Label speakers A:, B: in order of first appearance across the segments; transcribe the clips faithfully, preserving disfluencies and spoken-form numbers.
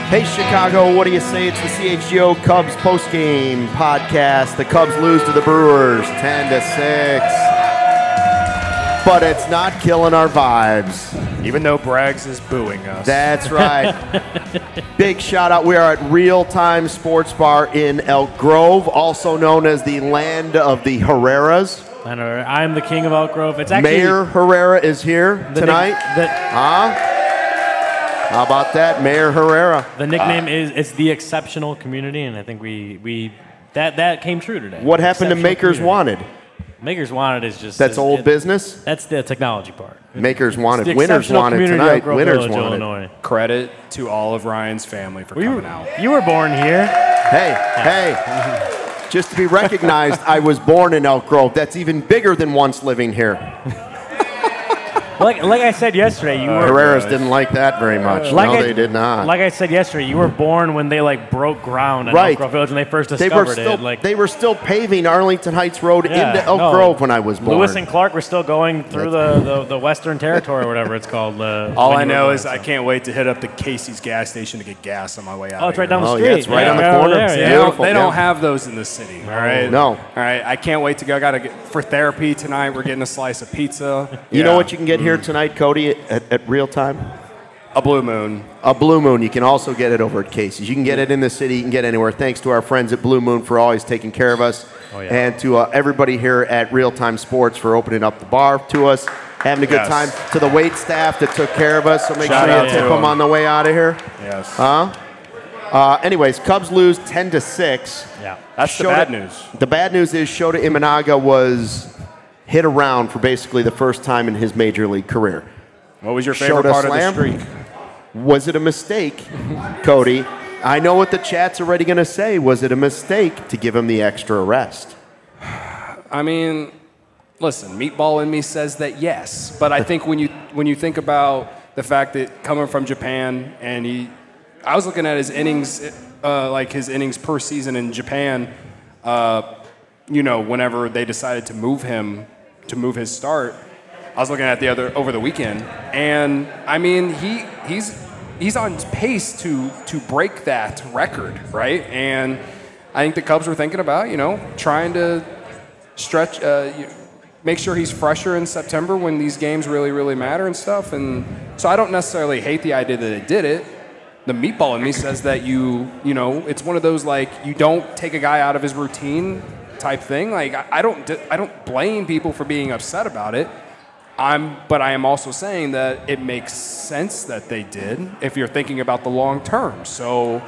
A: Hey, Chicago, what do you say? It's the C H G O Cubs postgame podcast. The Cubs lose to the Brewers ten to six. But it's not killing our vibes.
B: Even though Braggs is booing us.
A: That's right. Big shout out. We are at Real Time Sports Bar in Elk Grove, also known as the land of the Herreras.
C: I'm the king of Elk Grove. It's actually
A: Mayor Herrera is here tonight.
C: Nick, the,
A: huh? How about that, Mayor Herrera?
C: The nickname uh, is it's the exceptional community, and I think we we that that came true today.
A: What happened to Makers
C: community.
A: Wanted?
C: Makers Wanted is just
A: that's
C: is,
A: old
C: it,
A: business.
C: That's the technology part.
A: Makers Wanted, winners wanted tonight. Winners
C: Village,
A: wanted.
C: Illinois.
B: Credit to all of Ryan's family for
C: well,
B: coming
C: you,
B: out.
C: You were born here.
A: Hey, hey. Just to be recognized, I was born in Elk Grove. That's even bigger than once living here.
C: Like, like I said yesterday, you
A: uh,
C: were
A: Herreras didn't like that very much.
C: Like
A: no,
C: I,
A: they did not.
C: Like I said yesterday, you were born when they like broke ground in
A: right.
C: Elk Grove Village when they first discovered
A: they were still,
C: it. Like
A: they were still paving Arlington Heights Road
C: yeah,
A: into Elk
C: no.
A: Grove when I was born.
C: Lewis and Clark were still going through the, the, the Western Territory or whatever it's called. Uh,
B: all I know is so. I can't wait to hit up the Casey's gas station to get gas on my way out.
C: Oh, it's right
B: here.
C: down the
A: oh,
C: street.
A: Yeah, it's right
C: yeah,
A: on the
C: right
A: corner.
C: There,
A: it's
C: yeah.
B: They, don't,
A: beautiful.
B: they don't
A: yeah.
B: have those in the city. All right.
A: No.
B: All right. I can't wait to go. I got to get for therapy tonight. We're getting a slice of pizza.
A: You
B: yeah.
A: know what you can get
B: mm.
A: here tonight, Cody, at, at Real Time?
B: A Blue Moon.
A: A Blue Moon. You can also get it over at Casey's. You can get it in the city. You can get it anywhere. Thanks to our friends at Blue Moon for always taking care of us.
C: Oh, yeah.
A: And to uh, everybody here at Real Time Sports for opening up the bar to us. Having a good
B: yes.
A: time. To the wait staff that took care of us. So make
B: Shout
A: sure you tip
B: them.
A: them on the way out of here.
B: Yes.
A: Huh? Uh, anyways, Cubs lose ten to six.
C: Yeah.
B: That's the
A: Shota,
B: bad news.
A: The bad news is Shota Imanaga was hit around for basically the first time in his major league career.
B: What was your favorite
A: Shota
B: part
A: slam?
B: of the streak?
A: Was it a mistake, Cody? I know what the chat's already going to say. Was it a mistake to give him the extra rest?
B: I mean, listen, Meatball in me says that yes, but I think when you when you think about the fact that coming from Japan and he, I was looking at his innings, uh, like his innings per season in Japan. Uh, you know, whenever they decided to move him, to move his start, I was looking at the other over the weekend, and I mean, he he's he's on pace to to break that record, right? And I think the Cubs were thinking about, you know, trying to stretch, uh, make sure he's fresher in September when these games really, really matter and stuff. And so I don't necessarily hate the idea that it did it. The Meatball in me says that you, you know, it's one of those like you don't take a guy out of his routine type thing. Like I don't, I don't blame people for being upset about it. I'm, but I am also saying that it makes sense that they did if you're thinking about the long term. So,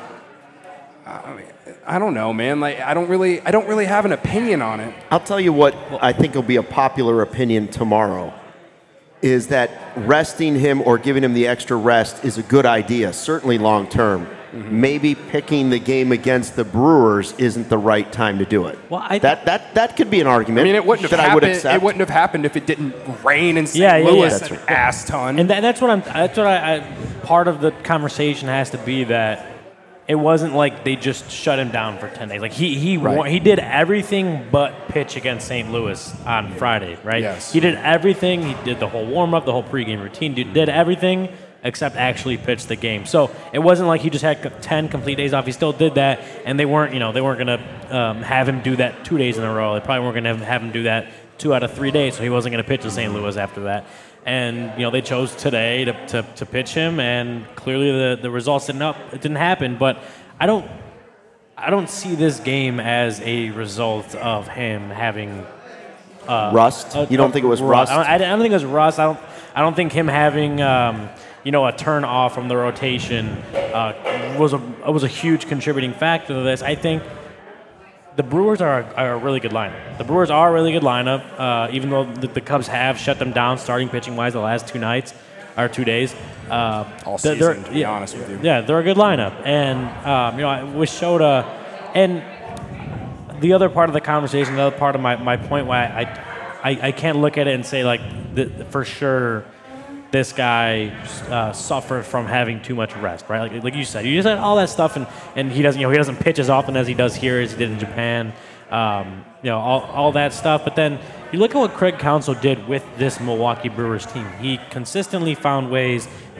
B: I mean, I don't know, man. Like, I don't really, I don't really have an opinion on it.
A: I'll tell you what I think will be a popular opinion tomorrow is that resting him or giving him the extra rest is a good idea, certainly long term. Mm-hmm. Maybe picking the game against the Brewers isn't the right time to do it.
C: Well, I th-
A: that that that could be an argument.
B: I mean, it wouldn't have
A: that
B: happened.
A: I would accept.
B: It wouldn't have happened if it didn't rain in Saint
C: Yeah, yeah,
B: Louis
C: yeah.
B: an ass ton.
C: And that, that's what I'm. That's what I, I. Part of the conversation has to be that it wasn't like they just shut him down for ten days. Like he he
A: Right.
C: wa- he did everything but pitch against Saint Louis on Friday, right?
B: Yes.
C: He did everything. He did the whole warm up, the whole pregame routine. Did, did everything except actually pitch the game. So it wasn't like he just had ten complete days off. He still did that, and they weren't, you know, they weren't going to um, have him do that two days in a row. They probably weren't going to have him do that two out of three days, so he wasn't going to pitch to Saint Louis after that. And, you know, they chose today to, to, to pitch him, and clearly the, the results didn't up, it didn't happen. But I don't I don't see this game as a result of him having uh,
A: rust.
C: a-
A: You don't
C: a
A: think it was
C: rust?
A: rust?
C: I don't, I don't think it was rust. I don't. I don't think him having um, you know a turn off from the rotation uh, was a was a huge contributing factor to this. I think the Brewers are a, are a really good lineup. The Brewers are a really good lineup, uh, even though the, the Cubs have shut them down starting pitching wise the last two nights or two days. Uh,
B: All
C: they're-
B: season,
C: they're-
B: to be
C: yeah,
B: honest with you.
C: Yeah, they're a good lineup, and um, you know with Shota, and the other part of the conversation, the other part of my, my point why I, I I can't look at it and say like the, for sure this guy uh, suffered from having too much rest, right? Like like you said, you just said all that stuff, and, and he doesn't you know he doesn't pitch as often as he does here as he did in Japan, um, you know all all that stuff. But then you look at what Craig Counsell did with this Milwaukee Brewers team. He consistently found ways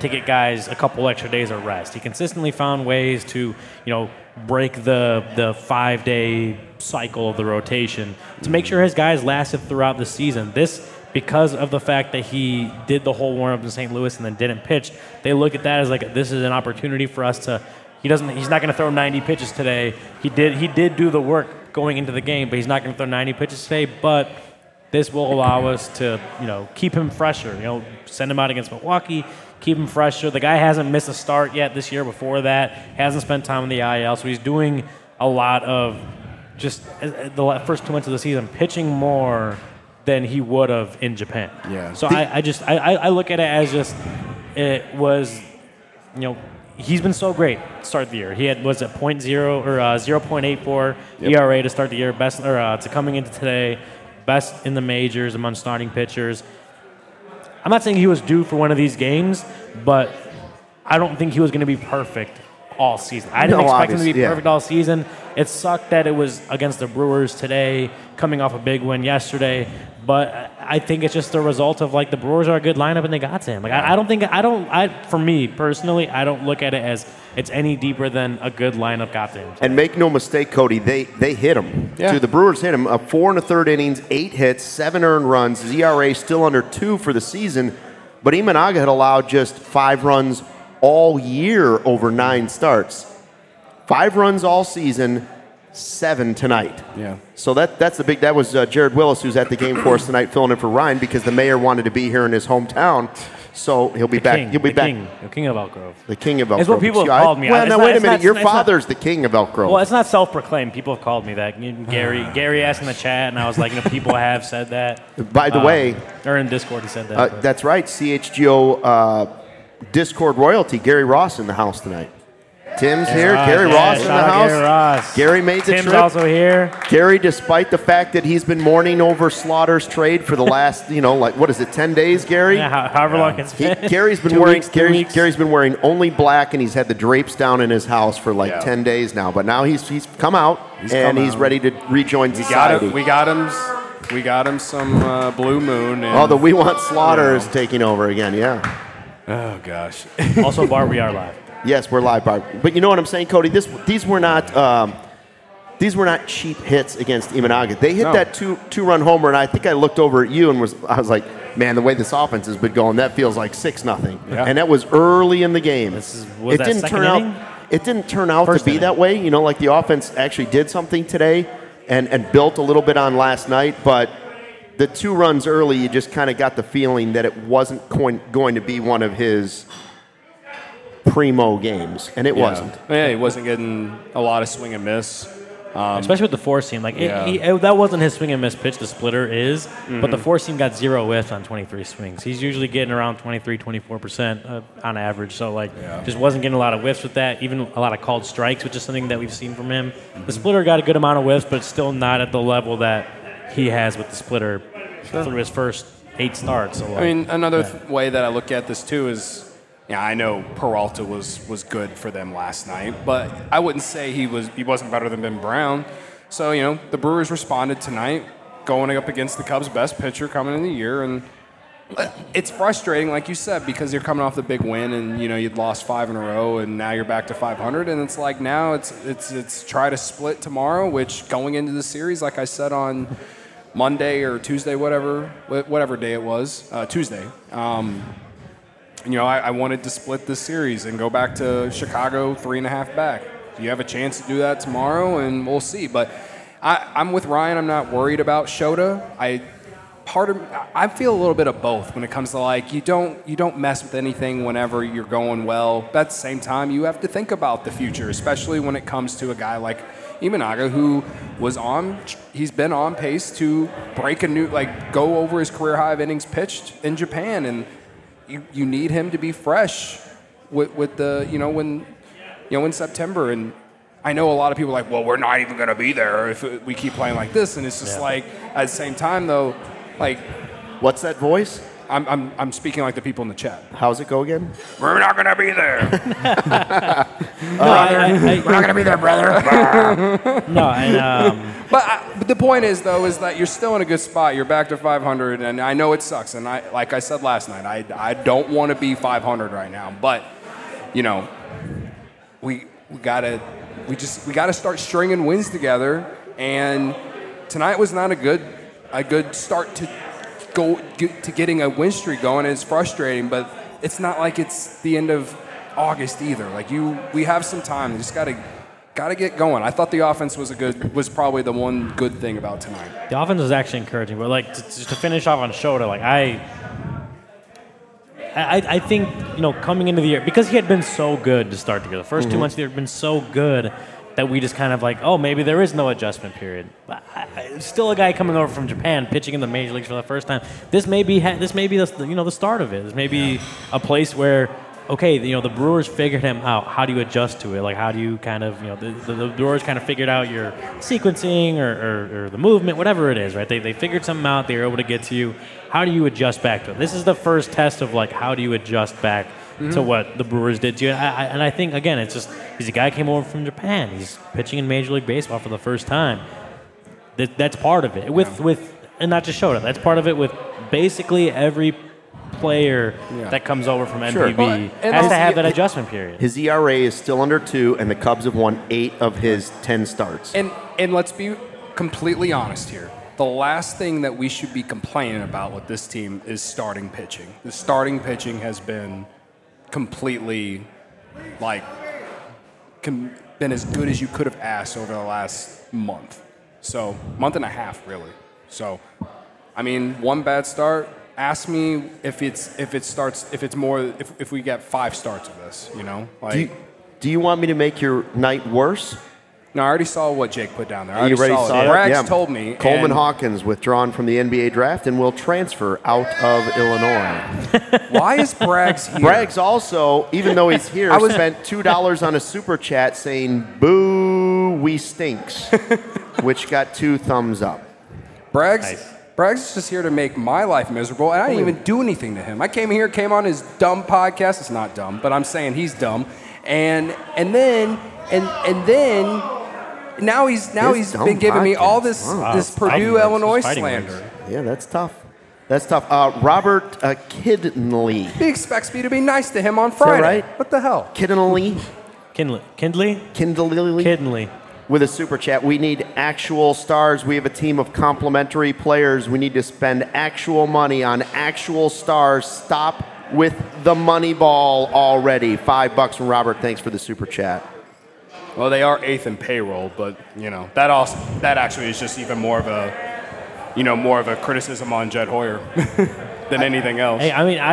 C: to get guys a couple extra days of rest. He consistently found ways to, you know, break the the five-day cycle of the rotation to make sure his guys lasted throughout the season. This, because of the fact that he did the whole warm-up in Saint Louis and then didn't pitch, they look at that as like, this is an opportunity for us to, he doesn't, he's not going to throw ninety pitches today. He did, he did do the work going into the game, but he's not going to throw ninety pitches today, but this will allow us to, you know, keep him fresher. You know, send him out against Milwaukee, keep him fresher. The guy hasn't missed a start yet this year before that, hasn't spent time in the I L, so he's doing a lot of just the first two months of the season, pitching more than he would have in Japan.
B: Yeah.
C: So I, I just, I, I look at it as just, it was, you know, he's been so great to start the year. He had, was it point zero or uh, zero point eight four yep. E R A to start the year, best, or uh, to coming into today, best in the majors among starting pitchers. I'm not saying he was due for one of these games, but I don't think he was going to be perfect all season. I didn't
A: no,
C: expect him to be
A: yeah.
C: perfect all season. It sucked that it was against the Brewers today, coming off a big win yesterday. But I think it's just a result of, like, the Brewers are a good lineup and they got to him. Like, I, I don't think, I don't, I for me personally, I don't look at it as it's any deeper than a good lineup got to him.
A: And make no mistake, Cody, they they hit him.
B: Yeah.
A: Too. The Brewers hit him. Uh, four and a third innings, eight hits, seven earned runs. His E R A still under two for the season. But Imanaga had allowed just five runs all year over nine starts. Five runs all season, seven tonight.
B: Yeah.
A: So that that's the big. That was uh, Jared Willis, who's at the game for us tonight, filling in for Ryan because the mayor wanted to be here in his hometown. So he'll be
C: The
A: back.
C: king,
A: he'll be
C: the
A: back.
C: King, the king of Elk Grove.
A: The king of Elk
C: It's
A: Grove.
C: what people have
A: I-
C: called me.
A: Well,
C: It's
A: now
C: not-
A: wait a
C: it's
A: minute.
C: not-
A: Your
C: it's not-
A: father's the king of Elk Grove.
C: Well, it's not self-proclaimed. People have called me that. You know, Gary, Gary asked in the chat, and I was like, you know, people have said that.
A: By the
C: Um,
A: way,
C: or in Discord, he said that.
A: uh,
C: but-
A: that's right. C H G O uh, Discord royalty. Gary Ross in the house tonight. Tim's here.
C: Ross,
A: Gary
C: yeah,
A: Ross in the
C: shout out
A: house.
C: Gary Ross.
A: Gary made the
C: Tim's
A: trip.
C: also here.
A: Gary, despite the fact that he's been mourning over Slaughter's trade for the last, you know, like what is it, ten days, Gary?
C: Yeah, how- however long it's
A: He,
C: been.
A: Gary's been
C: Two
A: wearing
C: weeks, two
A: Gary's,
C: weeks.
A: Gary's been wearing only black, and he's had the drapes down in his house for like
B: Yeah.
A: ten days now. But now he's he's come out
B: He's
A: and
B: come
A: he's
B: out.
A: ready to rejoin
B: We got
A: society.
B: him. We got him. We got him some uh, Blue Moon. And,
A: oh, the We Want Slaughter
B: Yeah.
A: is taking over again. Yeah.
B: Oh gosh.
C: Also, Bart, we are live.
A: Yes, we're live, Barb. But you know what I'm saying, Cody? This these were not um, these were not cheap hits against Imanaga. They hit
B: No.
A: that two two run homer, and I think I looked over at you and was I was like, man, the way this offense has been going, that feels like six nothing.
B: Yeah.
A: And that was early in the game.
C: This is- was
A: it
C: that
A: didn't
C: second
A: turn
C: inning?
A: out. It didn't turn out
C: First
A: to be
C: inning.
A: that way. You know, like the offense actually did something today, and and built a little bit on last night, but. The two runs early, you just kind of got the feeling that it wasn't going, going to be one of his primo games, and it
B: Yeah.
A: wasn't.
B: Yeah, he wasn't getting a lot of swing and miss. Um,
C: Especially with the four seam. Like, it-
B: Yeah.
C: he, it- that wasn't his swing and miss pitch, the splitter is, but the
B: Mm-hmm.
C: four seam got zero whiff on twenty-three swings. He's usually getting around twenty-three, twenty-four percent uh, on average. So, like,
B: Yeah.
C: just wasn't getting a lot of whiffs with that, even a lot of called strikes, which is something that we've seen from him.
B: Mm-hmm.
C: The splitter got a good amount of whiffs, but still not at the level that he has with the splitter through his first eight starts. So, like,
B: I mean, another th- way that I look at this too is, yeah, I know Peralta was was good for them last night, but I wouldn't say he was he wasn't better than Ben Brown. So you know, the Brewers responded tonight, going up against the Cubs' best pitcher coming in the year, and it's frustrating, like you said, because you're coming off the big win, and you know you'd lost five in a row, and now you're back to five hundred, and it's like now it's it's it's try to split tomorrow, which going into the series, like I said on Monday or Tuesday, whatever wh- whatever day it was, uh, Tuesday. Um, you know, I, I wanted to split this series and go back to Chicago three and a half back. You have a chance to do that tomorrow, and we'll see. But I, I'm with Ryan. I'm not worried about Shota. I part of I feel a little bit of both when it comes to like you don't you don't mess with anything whenever you're going well. But at the same time, you have to think about the future, especially when it comes to a guy like Imanaga, who was on, he's been on pace to break a new, like go over his career high of innings pitched in Japan, and you, you need him to be fresh with, with the, you know, when, you know, in September. And I know a lot of people are like, well, we're not even going to be there if we keep playing like this. And it's just
C: Yeah.
B: like, at the same time though, like,
A: What's that voice?
B: I'm, I'm, I'm speaking like the people in the chat.
A: How's it go again?
B: We're not going to be there.
C: no, I, I, I,
B: We're not going to be there, brother.
C: no, and um,
B: But, I, but the point is, though, is that you're still in a good spot. You're back to five hundred, and I know it sucks. And I, like I said last night, I, I don't want to be five hundred right now. But, you know, we we gotta we just we gotta start stringing wins together. And tonight was not a good a good start to go get, to getting a win streak going. And it's frustrating, but it's not like it's the end of August either. Like you, we have some time. We just gotta. Got to get going. I thought the offense was a good, was probably the one good thing about tonight.
C: The offense was actually encouraging, but like to, to finish off on Shota, like I, I, I think you know coming into the year because he had been so good to start the year. The first mm-hmm. two months of the year had been so good that we just kind of like, oh, maybe there is no adjustment period. But I, I, still a guy coming over from Japan, pitching in the major leagues for the first time. This may be this may be the you know the start of it. This may be a place where. Okay, you know, the Brewers figured him out. How do you adjust to it? Like, how do you kind of, you know, the, the, the Brewers kind of figured out your sequencing or, or, or the movement, whatever it is, right? They, they figured something out. They were able to get to you. How do you adjust back to it? This is the first test of, like, how do you adjust back mm-hmm. to what the Brewers did to you? And I, and I think, again, it's just he's a guy who came over from Japan. He's pitching in Major League Baseball for the first time. That, that's part of it. With, yeah. with and not just Shota. That's part of it with basically every player yeah. that comes over from M P B sure. well, has to have that adjustment period.
A: His E R A is still under two, and the Cubs have won eight of his ten starts.
B: And and let's be completely honest here. The last thing that we should be complaining about with this team is starting pitching. The starting pitching has been completely, like, com- been as good as you could have asked over the last month. So, month and a half, really. So, I mean, one bad start. Ask me if it's if it starts if it's more if, if we get five starts of this, you know. Like,
A: do you, do you want me to make your night worse?
B: No, I already saw what Jake put down there. I already,
A: you already
B: saw,
A: saw
B: it.
A: that?
B: Braggs
A: yeah.
B: told me.
A: Coleman Hawkins withdrawn from the N B A draft and will transfer out of Illinois.
B: Why is Braggs here?
A: Braggs also, even though he's here, was, spent two dollars on a super chat saying "Boo, we stinks," which got two thumbs up.
B: Braggs.
C: Nice.
B: Braggs is just here to make my life miserable, and I didn't even do anything to him. I came here, came on his dumb podcast. It's not dumb, but I'm saying he's dumb. And and then and and then now he's now
A: His
B: he's been giving
A: podcast.
B: me all this
C: Wow.
B: this
C: Fighting
B: Purdue
C: words.
B: Illinois
C: Fighting
B: slander.
C: words.
A: Yeah, that's tough. That's tough. Uh, Robert uh, Kidney.
B: He expects me to be nice to him on Friday.
A: right?
B: What the hell?
A: Kidney.
C: Kindley. Kindley?
A: Kindley.
C: Kindley.
A: With a super chat. We need actual stars. We have a team of complimentary players. We need to spend actual money on actual stars. Stop with the money ball already. Five bucks from Robert. Thanks for the super chat.
B: Well, they are eighth in payroll, but you know that also that actually is just even more of a you know more of a criticism on Jed Hoyer than anything else.
C: Hey, I mean,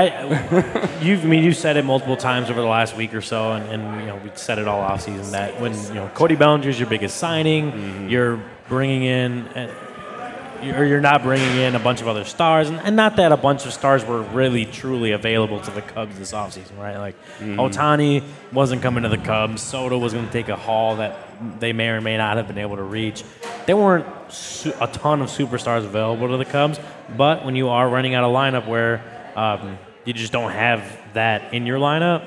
C: I you've I mean you said it multiple times over the last week or so, and, and you know we said it all off season that when you know Cody Bellinger's your biggest signing, mm-hmm. you're bringing in. Uh, or you're not bringing in a bunch of other stars, and, and not that a bunch of stars were really truly available to the Cubs this offseason, right? Like mm-hmm. Ohtani wasn't coming to the Cubs. Soto was going to take a haul that they may or may not have been able to reach. There weren't su- a ton of superstars available to the Cubs, but when you are running out a lineup where um, you just don't have that in your lineup,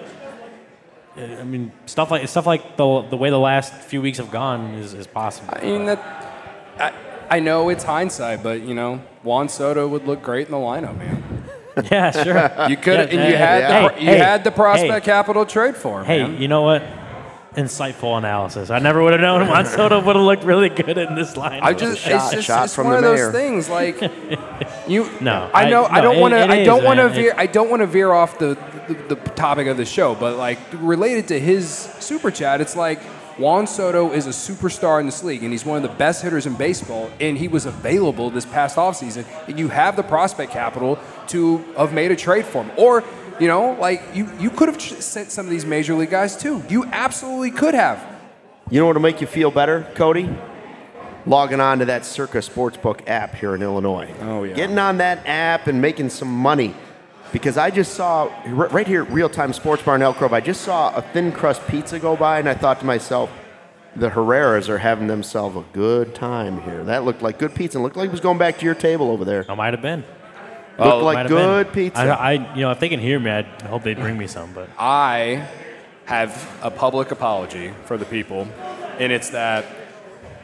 C: I mean, stuff like stuff like the the way the last few weeks have gone is, is possible.
B: I mean that. I, I know it's hindsight, but you know Juan Soto would look great in the lineup, man.
C: Yeah, sure.
B: You could,
C: yeah,
B: and you had
C: yeah.
B: the,
C: hey,
B: you
C: hey,
B: had the prospect
C: hey,
B: capital trade for him.
C: Hey,
B: man.
C: you know what? Insightful analysis. I never would have known Juan Soto would have looked really good in this lineup.
B: I just,
A: shot,
B: it's just
A: shot
B: it's
A: from
B: one
A: the
B: of
A: mayor.
B: those things. Like you,
C: No,
B: I know.
C: I-
B: I, don't
C: no,
B: want to.
C: it- it
B: I don't
C: is,
B: want to
C: man.
B: veer.
C: It-
B: I don't want to veer off the, the the topic of the show, but like related to his super chat, it's like. Juan Soto is a superstar in this league, and he's one of the best hitters in baseball, and he was available this past offseason, and you have the prospect capital to have made a trade for him. Or, you know, like, you, you could have tr- sent some of these major league guys, too. You absolutely could have.
A: You know what will make you feel better, Cody? Logging on to that Circa Sportsbook app here in Illinois.
B: Oh, yeah.
A: Getting on that app and making some money. Because I just saw, right here at Real Time Sports Bar in Elk Grove, I just saw a thin crust pizza go by, and I thought to myself, the Herreras are having themselves a good time here. That looked like good pizza. It looked like it was going back to your table over there.
C: I might have been.
A: Looked
C: Oh,
A: like
C: might have
A: good
C: been.
A: pizza.
C: I, I, you know, if they can hear me, I hope they bring me some. But
B: I have a public apology for the people, and it's that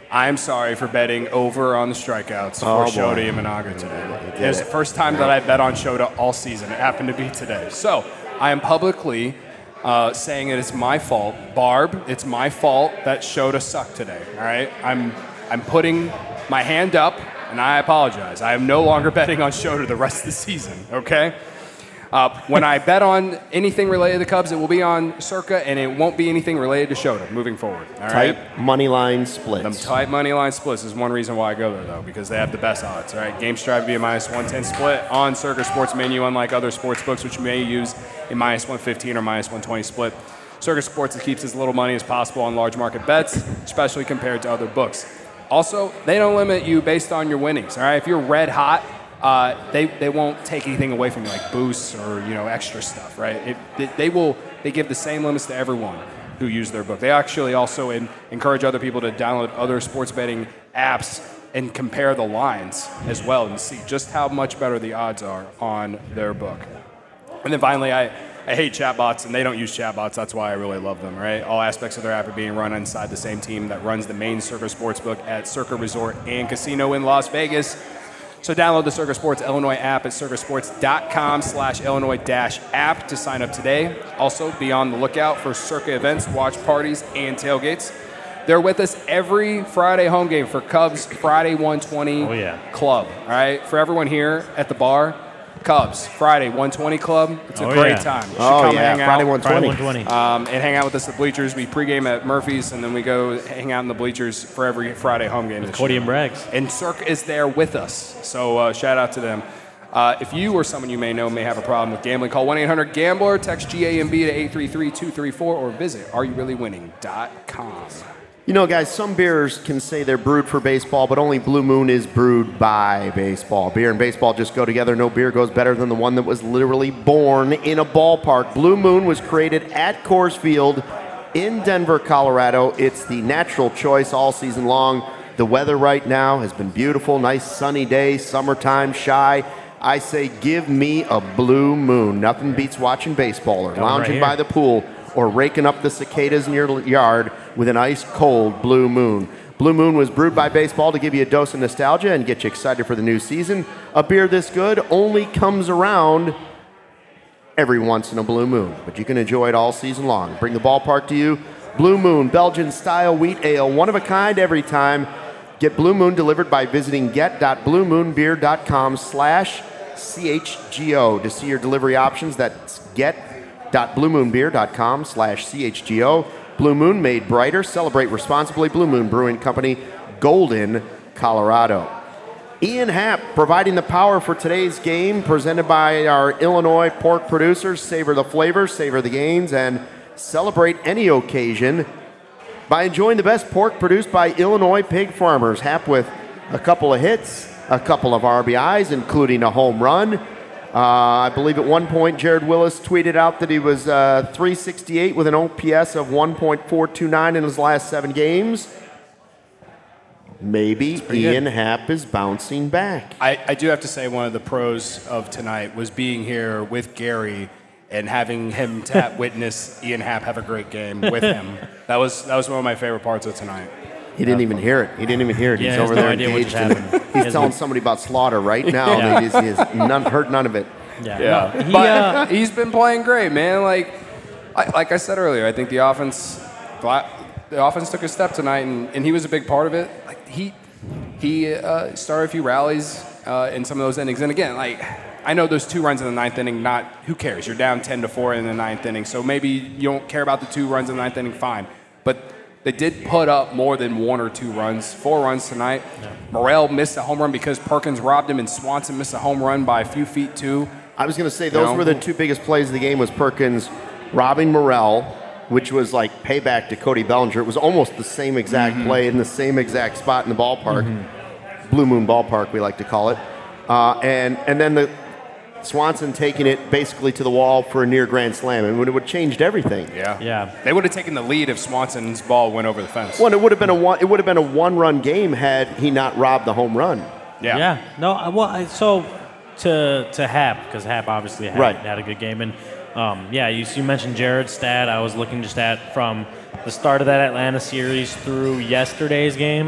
B: I'm sorry for betting over on the strikeouts
A: Oh,
B: for Shota
A: boy.
B: Imanaga today.
A: did
B: It was
A: it.
B: the first time that I bet on Shota all season. It happened to be today. So I am publicly uh, saying it is my fault. Barb, it's my fault that Shota sucked today. All right? I'm, I'm putting my hand up, and I apologize. I am no longer betting on Shota the rest of the season, okay? Uh, when I bet on anything related to the Cubs, it will be on Circa, and it won't be anything related to Shota moving forward. All right?
A: Tight money line
B: Them
A: splits.
B: tight money line splits is one reason why I go there, though, because they have the best odds. All right, game strive to be a minus one ten split on Circa Sports menu, unlike other sports books, which you may use a minus one fifteen or minus one twenty split. Circa Sports keeps as little money as possible on large market bets, especially compared to other books. Also, they don't limit you based on your winnings. All right, if you're red hot, uh, they they won't take anything away from you, like boosts or you know extra stuff. Right? It, they, they will they give the same limits to everyone who use their book. They actually also in, encourage other people to download other sports betting apps and compare the lines as well and see just how much better the odds are on their book. And then finally, I, I hate chatbots, and they don't use chatbots. That's why I really love them, right? All aspects of their app are being run inside the same team that runs the main Circa Sportsbook at Circa Resort and Casino in Las Vegas. So download the Circa Sports Illinois app at circasports.com slash Illinois dash app to sign up today. Also, be on the lookout for Circa events, watch parties, and tailgates. They're with us every Friday home game for Cubs Friday one twenty
C: Oh, yeah.
B: Club. All right, for everyone here at the bar, Cubs Friday one twenty Club. It's a
C: Oh,
B: great
C: yeah.
B: time. You should
A: Oh,
B: come
A: yeah,
B: hang
A: Friday
B: out.
A: one
C: Friday
A: twenty.
C: one twenty.
B: Um, and hang out with us at the bleachers. We pregame at Murphy's, and then we go hang out in the bleachers for every Friday home game. this
C: Cody
B: year.
C: and Braggs.
B: And Cirque is there with us. So uh, shout out to them. Uh, if you or someone you may know may have a problem with gambling, call one eight hundred gambler, text G A M B to eight three three two three four, or visit are you really winning dot com.
A: You know, guys, some beers can say they're brewed for baseball, but only Blue Moon is brewed by baseball. Beer and baseball just go together. No beer goes better than the one that was literally born in a ballpark. Blue Moon was created at Coors Field in Denver, Colorado. It's the natural choice all season long. The weather right now has been beautiful. Nice sunny day, summertime, shy. I say give me a Blue Moon. Nothing beats watching baseball or
C: Coming
A: lounging
C: right
A: by the pool or raking up the cicadas in your yard with an ice-cold Blue Moon. Blue Moon was brewed by baseball to give you a dose of nostalgia and get you excited for the new season. A beer this good only comes around every once in a blue moon, but you can enjoy it all season long. Bring the ballpark to you. Blue Moon, Belgian-style wheat ale, one of a kind every time. Get Blue Moon delivered by visiting get.bluemoonbeer.com slash CHGO to see your delivery options. That's get.bluemoonbeer.com slash CHGO. Blue Moon, made brighter. Celebrate responsibly. Blue Moon Brewing Company, Golden, Colorado. Ian Happ providing the power for today's game, presented by our Illinois pork producers. Savor the flavors, savor the gains, and celebrate any occasion by enjoying the best pork produced by Illinois pig farmers. Happ with a couple of hits, a couple of R B Is, including a home run. Uh, I believe at one point Jared Willis tweeted out that he was uh, three sixty-eight with an O P S of one point four two nine in his last seven games. Maybe Ian
C: good.
A: Happ is bouncing back.
B: I, I do have to say one of the pros of tonight was being here with Gary and having him tap witness Ian Happ have a great game with him. That was that was one of my favorite parts of tonight.
A: He didn't even hear it. He didn't even hear it.
C: Yeah,
A: He's
C: he has
A: over
C: no
A: there
C: idea what
A: engaged
C: just
A: in it.
C: happened. He
A: He's
C: has
A: telling
C: no-
A: somebody about Slaughter right now.
C: Yeah.
A: He, has, he has none, heard none of it.
C: Yeah.
B: Yeah,
C: No, he,
B: but
C: uh,
B: he's been playing great, man. Like, I, like I said earlier, I think the offense, the offense took a step tonight, and, and he was a big part of it. Like he, he uh, started a few rallies uh, in some of those innings, and again, like I know those two runs in the ninth inning. Not who cares? You're down ten to four in the ninth inning, so maybe you don't care about the two runs in the ninth inning. Fine, but they did put up more than one or two runs, four runs tonight. Yeah. Morel missed a home run because Perkins robbed him, and Swanson missed a home run by a few feet too.
A: I was going to say those
B: No.
A: were the two biggest plays of the game was Perkins robbing Morel, which was like payback to Cody Bellinger. It was almost the same exact
B: Mm-hmm.
A: play in the same exact spot in the ballpark.
B: Mm-hmm.
A: Blue Moon Ballpark, we like to call it. Uh, and, and then the Swanson taking it basically to the wall for a near grand slam. And it would have changed everything.
B: Yeah.
C: Yeah.
B: They would have taken the lead if Swanson's ball went over the fence.
A: Well, it would have been a one. It would have been a one-run game had he not robbed the home run.
B: Yeah.
C: Yeah. No. I- Well, I, so to to Hap, because Hap obviously had,
A: Right.
C: had a good game, and um, yeah, you, you mentioned Jared's stat. I was looking just at from the start of that Atlanta series through yesterday's game.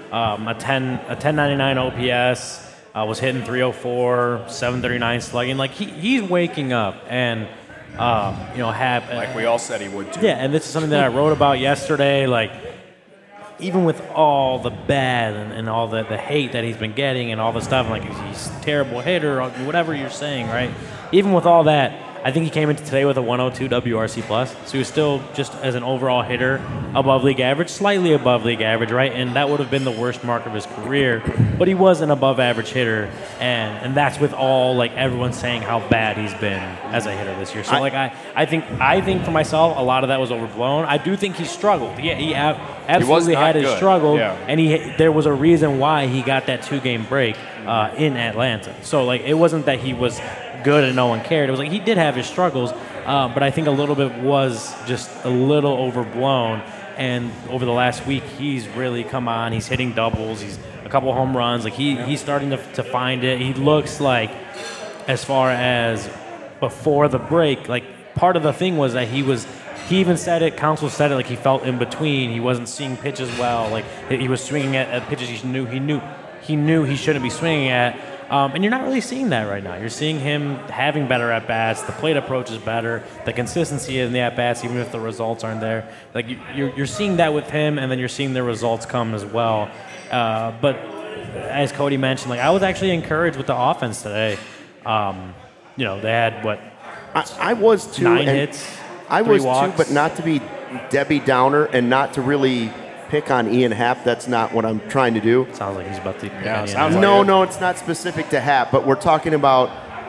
C: um, a ten a ten ninety-nine O P S. Uh, was hitting three oh four, seven thirty-nine slugging. Like he, he's waking up, and um, you know, have
B: Like we all said he would too.
C: yeah. And this is something that I wrote about yesterday. Like even with all the bad and, and all the, the hate that he's been getting and all the stuff, like he's a terrible hitter, or whatever you're saying, right? Even with all that, I think he came into today with a one oh two W R C plus, so he was still just as an overall hitter above league average, slightly above league average, right? And that would have been the worst mark of his career, but he was an above average hitter, and and that's with all like everyone saying how bad he's been as a hitter this year. So
A: I,
C: like I, I think I think for myself a lot of that was overblown. I do think he struggled. Yeah, he, he absolutely
B: not
C: had his
B: good.
C: struggle,
B: Yeah.
C: and he there was a reason why he got that two game break uh, in Atlanta. So like it wasn't that he was good and no one cared. It was like he did have his struggles, uh, but I think a little bit was just a little overblown. And over the last week, he's really come on. He's hitting doubles. He's a couple home runs. Like he, he's starting to, to find it. He looks like, as far as before the break, like part of the thing was that he was. He even said it. Counsell said it. Like he felt in between. He wasn't seeing pitches well. Like he was swinging at, at pitches he knew he knew he knew he shouldn't be swinging at. Um, and you're not really seeing that right now. You're seeing him having better at-bats. The plate approach is better. The consistency in the at-bats, even if the results aren't there. Like you, you're, you're seeing that with him, and then you're seeing the results come as well. Uh, but as Cody mentioned, like I was actually encouraged with the offense today. Um, you know, they had, what,
A: I, I was too.
C: nine
A: and
C: hits,
A: I
C: three
A: was
C: walks.
A: too, but not to be Debbie Downer and not to really pick on Ian Happ. That's not what I'm trying to do.
C: Sounds like he's about to.
B: Yeah, sounds like
A: No,
B: it.
A: no, it's not specific to Happ, but we're talking about,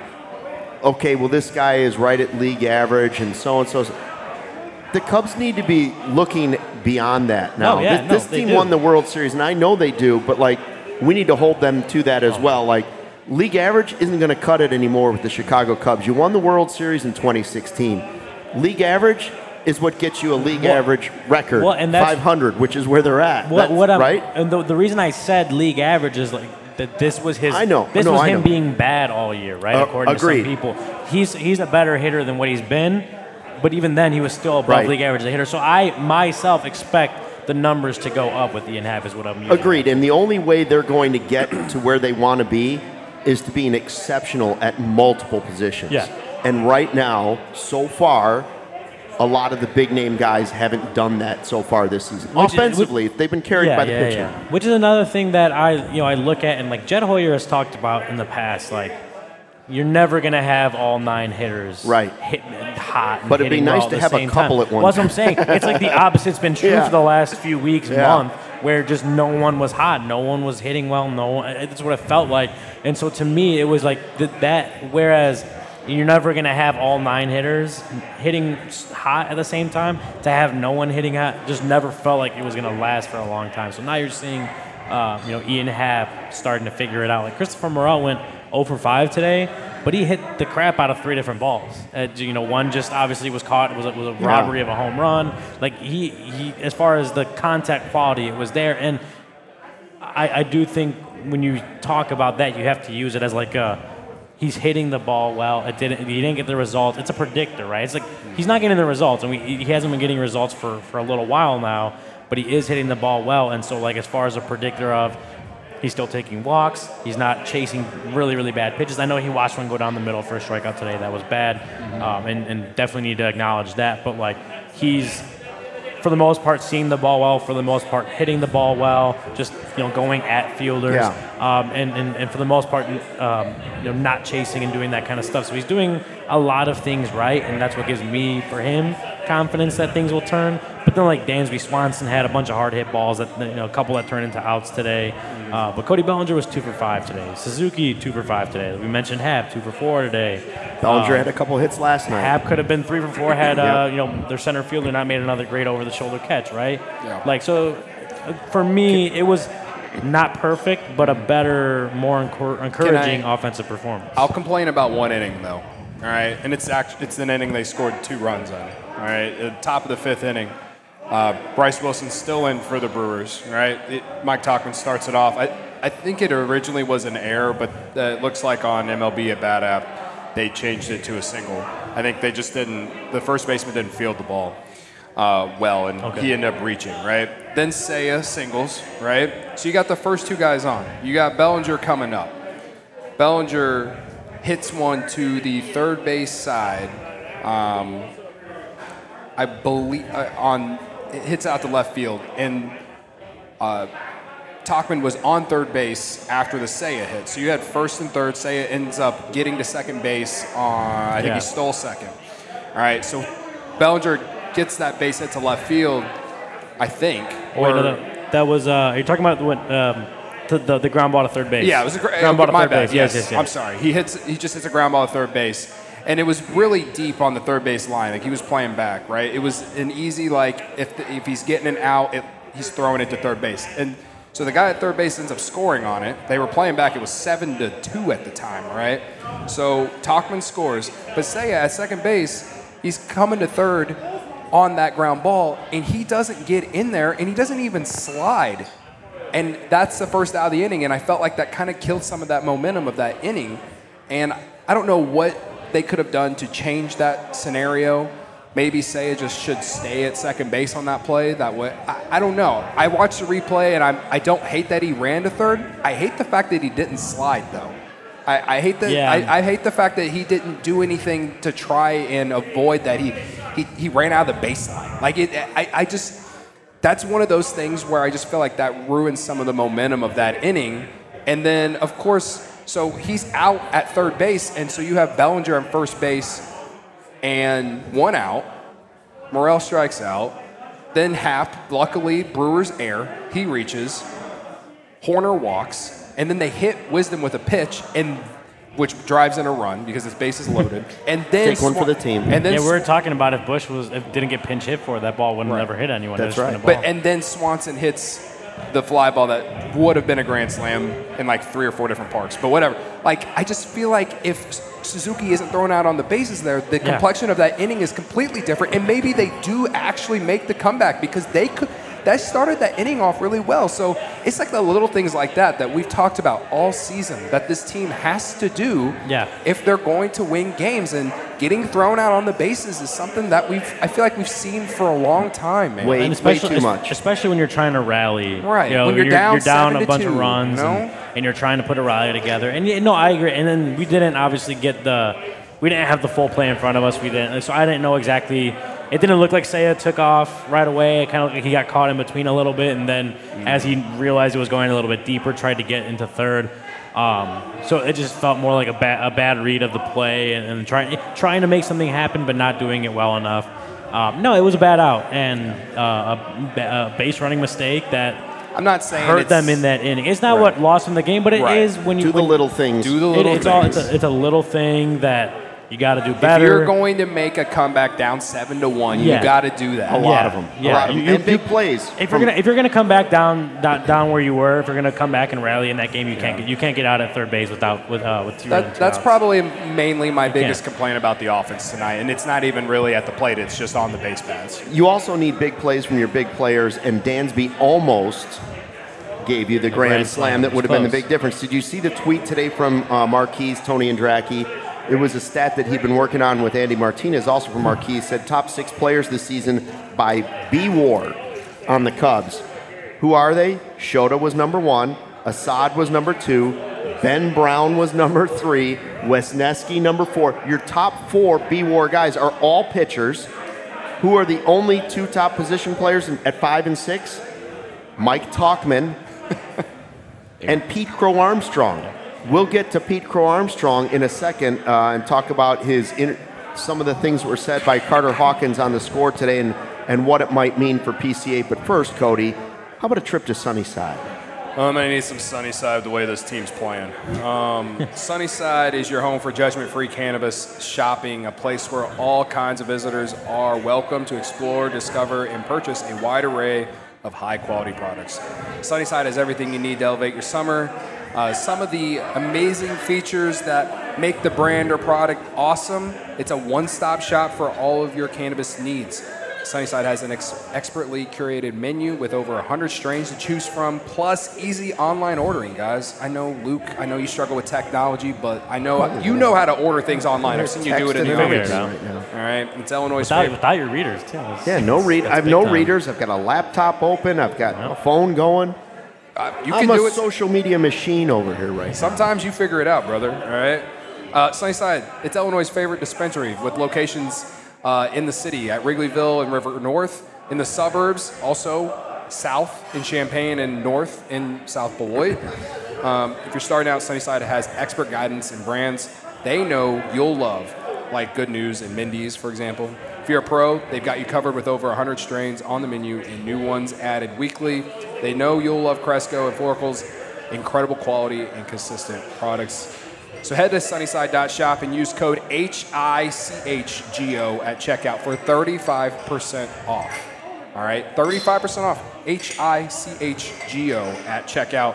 A: okay, well, this guy is right at league average and so and so. The Cubs need to be looking beyond that now.
C: No, yeah,
A: this
C: no,
A: this
C: they
A: team
C: do.
A: won the World Series, and I know they do, but like we need to hold them to that as well. Like league average isn't going to cut it anymore with the Chicago Cubs. You won the World Series in twenty sixteen. League average is what gets you a league
C: Well-
A: average record,
C: well, and that's-
A: five hundred, which is where they're at.
C: What,
A: That's-
C: what I'm,
A: right?
C: And the, the reason I said league average is like that this was his.
A: I know,
C: This
A: no,
C: was
A: I
C: him
A: know.
C: being bad all year, right?
A: Uh,
C: According
A: agreed.
C: to some people, he's he's a better hitter than what he's been, but even then he was still above
A: Right.
C: league average as a hitter. So I myself expect the numbers to go up with Ian Happ is what I'm. Using.
A: Agreed. And the only way they're going to get to where they want to be is to be an exceptional at multiple positions.
C: Yeah.
A: And right now, so far, a lot of the big name guys haven't done that so far this season.
C: Which is-
A: Offensively, they've been carried
C: yeah,
A: by the
C: yeah,
A: pitcher.
C: yeah. Which is another thing that I, you know, I look at and like Jed Hoyer has talked about in the past, like you're never gonna have all nine hitters
A: Right.
C: hitting hot. And
A: But it'd be
C: hitting
A: nice
C: well
A: to
C: at the
A: have a
C: same
A: couple
C: time.
A: at one
C: Well, that's what I'm saying. It's like the opposite's been true
A: Yeah.
C: for the last few weeks,
A: Yeah.
C: month, where just no one was hot, no one was hitting well, no one. That's what it felt like. And so to me, it was like th- that. Whereas you're never going to have all nine hitters hitting hot at the same time. To have no one hitting hot just never felt like it was going to last for a long time. So now you're seeing, uh, you know, Ian Happ starting to figure it out. Like Christopher Morel went oh for five today, but he hit the crap out of three different balls. Uh, you know, one just obviously was caught. It was a, was a
A: Yeah.
C: robbery of a home run. Like he, he, as far as the contact quality, it was there. And I, I do think when you talk about that, you have to use it as like a. He's hitting the ball well. It didn't. He didn't get the results. It's a predictor, right? It's like he's not getting the results, and we, he hasn't been getting results for, for a little while now. But he is hitting the ball well, and so like as far as a predictor of, he's still taking walks. He's not chasing really really bad pitches. I know he watched one go down the middle for a strikeout today. That was bad, um, and and definitely need to acknowledge that. But like he's. For the most part, seeing the ball well. For the most part, hitting the ball well. Just you know, going at fielders.
A: Yeah.
C: Um, and, and and for the most part, um, you know, not chasing and doing that kind of stuff. So he's doing a lot of things right, and that's what gives me, for him, confidence that things will turn. But then, like Dansby Swanson had a bunch of hard hit balls that you know, a couple that turned into outs today. Uh, but Cody Bellinger was two for five today. Suzuki two for five today. We mentioned Happ two for four today.
A: Bellinger
C: Um,
A: had a couple hits last night.
C: Happ could have been three for four had uh,
A: Yeah.
C: you know their center fielder not made another great over the shoulder catch, right?
B: Yeah.
C: Like so, uh, for me, it was not perfect, but a better, more encor- encouraging
B: I-
C: offensive performance.
B: I'll complain about one inning though. All right, and it's actually it's an inning they scored two runs on. All right, at the top of the fifth inning, uh, Bryce Wilson's still in for the Brewers. Right, it, Mike Tauchman starts it off. I I think it originally was an error, but uh, it looks like on M L B at Bat App they changed it to a single. I think they just didn't. The first baseman didn't field the ball. uh, well, and
C: Okay.
B: he ended up reaching, right? Then Seiya singles, right? So you got the first two guys on. You got Bellinger coming up. Bellinger hits one to the third base side. Um, I believe uh, on it hits out to left field, and uh, Tauchman was on third base after the Seiya hit. So you had first and third. Seiya ends up getting to second base on, I think
C: Yeah.
B: he stole second. All right, so Bellinger gets that base hit to left field, I think.
C: Oh, wait, no, that, that was. Uh, you're talking about what? Um, to the the ground ball to third base.
B: Yeah, it was a gra-
C: ground ball to
B: my
C: third
B: bad.
C: base.
B: Yes.
C: Yes, yes, yes.
B: I'm sorry. He hits. He just hits a ground ball to third base, and it was really deep on the third base line. Like he was playing back, right? It was an easy like if the, if he's getting an out, it, he's throwing it to third base, and so the guy at third base ends up scoring on it. They were playing back. It was seven to two at the time, right? So Tauchman scores, but Seiya at second base, he's coming to third on that ground ball, and he doesn't get in there, and he doesn't even slide. And that's the first out of the inning, and I felt like that kind of killed some of that momentum of that inning. And I don't know what they could have done to change that scenario. Maybe Seiya just should stay at second base on that play. That way, I, I don't know. I watched the replay, and I'm, I don't hate that he ran to third. I hate the fact that he didn't slide, though. I, I hate that.
C: Yeah.
B: I, I hate the fact that he didn't do anything to try and avoid that. He he, he ran out of the baseline. Like it, I, I just. That's one of those things where I just feel like that ruins some of the momentum of that inning. And then, of course, so he's out at third base, and so you have Bellinger on first base and one out. Morel strikes out. Then Happ, luckily, Brewer's air. He reaches. Horner walks, and then they hit Wisdom with a pitch, and which drives in a run because his base is loaded. And then
A: Take one for the team.
B: And then
C: Yeah, we were talking about if Bush was if didn't get pinch hit for it, that ball wouldn't
B: Right.
C: never hit anyone.
A: That's
C: It was
A: right.
C: just been a
B: But
C: ball.
B: and then Swanson hits the fly ball that would have been a grand slam in like three or four different parks. But whatever. Like I just feel like if Suzuki isn't thrown out on the bases there, the
C: Yeah.
B: complexion of that inning is completely different. And maybe they do actually make the comeback because they could. That started that inning off really well. So it's like the little things like that that we've talked about all season that this team has to do
C: Yeah.
B: if they're going to win games. And getting thrown out on the bases is something that we've I feel like we've seen for a long time, man.
A: Wait.
C: And
A: way
C: especially,
A: too much.
C: especially when you're trying to rally.
B: Right.
C: You know,
B: When you're down
C: you're down
B: seven
C: a
B: to
C: bunch
B: two,
C: of runs,
B: you know?
C: and, and you're trying to put a rally together. And you no, I agree. And then we didn't obviously get the, we didn't have the full play in front of us. We didn't, so I didn't know exactly. It didn't look like Seiya took off right away. It kind of looked like he got caught in between a little bit, and then as he realized it was going a little bit deeper, tried to get into third. Um, so it just felt more like a, ba- a bad read of the play and, and trying trying to make something happen, but not doing it well enough. Um, no, it was a bad out and uh, a, ba- a base running mistake that
B: I'm not saying
C: hurt
B: it's,
C: them in that inning. It's not
B: Right.
C: what lost them the game, but it is
B: Right.
C: when you
A: Do the
C: when-
A: little things.
B: do the
C: it-
B: little
C: it's all it's
B: things.
C: a, it's a little thing that you got to do
B: If
C: better.
B: you're going to make a comeback down seven to one,
C: Yeah.
B: you got to do that.
A: A lot
C: Yeah.
A: of them.
C: Yeah.
A: A lot of them.
C: You-
A: And big plays.
C: If you're
A: from-
C: gonna if you're gonna come back down, down down where you were, if you're gonna come back and rally in that game, you can't get you can't get out at third base without with uh, with two
B: That,
C: runs, two
B: that's
C: outs.
B: probably mainly my biggest
C: can't.
B: complaint about the offense tonight, and it's not even really at the plate; it's just on the base paths.
A: You also need big plays from your big players, and Dansby almost gave you the grand,
C: grand
A: slam
C: slam.
A: that would have been the
C: Close.
A: big difference. Did you see the tweet today from uh, Marquise, Tony Andracki? It was a stat that he'd been working on with Andy Martinez, also from Marquise, said top six players this season by B-War on the Cubs. Who are they? Shota was number one, Assad was number two, Ben Brown was number three, Wesneski number four. Your top four B-War guys are all pitchers. Who are the only two top position players in, at five and six? Mike Tauchman and Pete Crow Armstrong. We'll get to Pete Crow Armstrong in a second uh, and talk about his inter- some of the things that were said by Carter Hawkins on the score today and, and what it might mean for P C A. But first, Cody, how about a trip to Sunnyside?
B: I'm gonna need some Sunnyside the way this team's playing. Um, Sunnyside is your home for judgment-free cannabis shopping, a place where all kinds of visitors are welcome to explore, discover, and purchase a wide array of high-quality products. Sunnyside has everything you need to elevate your summer. Uh, some of the amazing features that make the brand or product awesome. It's a one-stop shop for all of your cannabis needs. Sunnyside has an ex- expertly curated menu with over one hundred strains to choose from, plus easy online ordering, guys. I know, Luke, I know you struggle with technology, but I know you know how to order things online. I've seen you do it in the
A: Texting
B: office.
A: right now.
B: All right, it's Illinois'
C: Without,
B: favorite.
C: without your readers, too. That's-
A: Yeah, no read. I have
C: big
A: no
C: time.
A: readers. I've got a laptop open. I've got a phone going.
B: Uh, you
A: I'm
B: can
A: a
B: do it.
A: social media machine over here right now.
B: Sometimes you figure it out, brother. All right. Uh, Sunnyside, it's Illinois' favorite dispensary with locations uh, in the city at Wrigleyville and River North, in the suburbs, also south in Champaign and north in South Beloit. Um, if you're starting out, Sunnyside has expert guidance and brands they know you'll love, like Good News and Mindy's, for example. If you're a pro, they've got you covered with over one hundred strains on the menu and new ones added weekly. They know you'll love Cresco and Floracle's incredible quality and consistent products. So head to sunnyside dot shop and use code H I C H G O at checkout for thirty-five percent off. All right, thirty-five percent off, H I C H G O at checkout.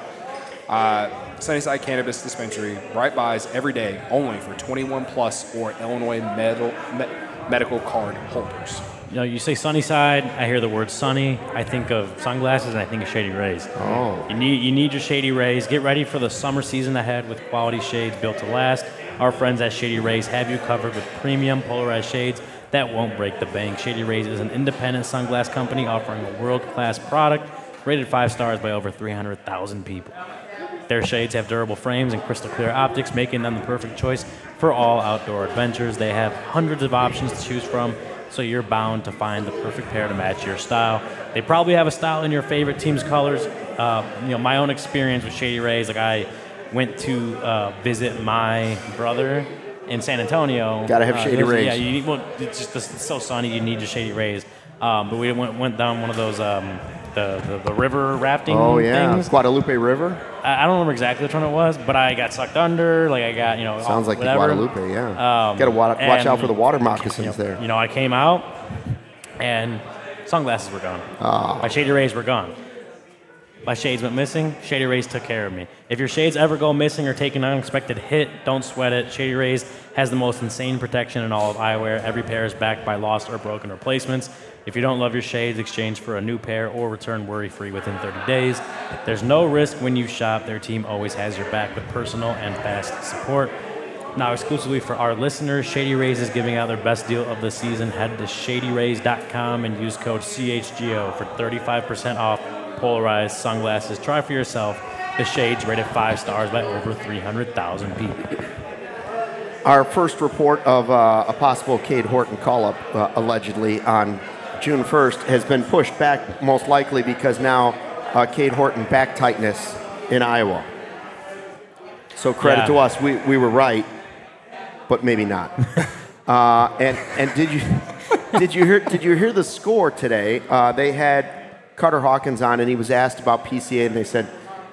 B: Uh, Sunnyside Cannabis Dispensary, right buys every day, only for twenty-one plus or Illinois med- me- medical card holders.
C: You know, you say Sunnyside, I hear the word sunny. I think of sunglasses and I think of Shady Rays.
A: Oh.
C: You need you need your Shady Rays. Get ready for the summer season ahead with quality shades built to last. Our friends at Shady Rays have you covered with premium polarized shades that won't break the bank. Shady Rays is an independent sunglass company offering a world-class product rated five stars by over three hundred thousand people. Their shades have durable frames and crystal clear optics, making them the perfect choice for all outdoor adventures. They have hundreds of options to choose from, so you're bound to find the perfect pair to match your style. They probably have a style in your favorite team's colors. Uh, you know, my own experience with Shady Rays, like I went to uh, visit my brother in San Antonio.
A: Gotta have
C: Uh,
A: Shady
C: there's-
A: Rays.
C: Yeah, you need, well, it's just it's so sunny. You need your Shady Rays. Um, but we went went down one of those um, the, the the river rafting
A: Oh, yeah.
C: things.
A: Guadalupe River?
C: I, I don't remember exactly which one it was, but I got sucked under. Like I got you know
A: Sounds like
C: whatever.
A: the Guadalupe, yeah.
C: Um,
A: Got to watch
C: and,
A: out for the water
C: you know,
A: moccasins there.
C: You know, I came out and sunglasses were gone.
A: Ah.
C: My Shady Rays were gone. My shades went missing. Shady Rays took care of me. If your shades ever go missing or take an unexpected hit, don't sweat it. Shady Rays has the most insane protection in all of eyewear. Every pair is backed by lost or broken replacements. If you don't love your shades, exchange for a new pair or return worry-free within thirty days. There's no risk when you shop. Their team always has your back with personal and fast support. Now, exclusively for our listeners, Shady Rays is giving out their best deal of the season. Head to shady rays dot com and use code C H G O for thirty-five percent off polarized sunglasses. Try for yourself the shades rated five stars by over three hundred thousand people.
A: Our first report of uh, a possible Cade Horton call-up, uh, allegedly, on June first has been pushed back, most likely because now uh, Cade Horton back tightness in Iowa. So credit
C: Yeah.
A: to us, we, we were right, but maybe not. uh, and and did you did you hear did you hear the score today? Uh, they had Carter Hawkins on, and he was asked about P C A, and they said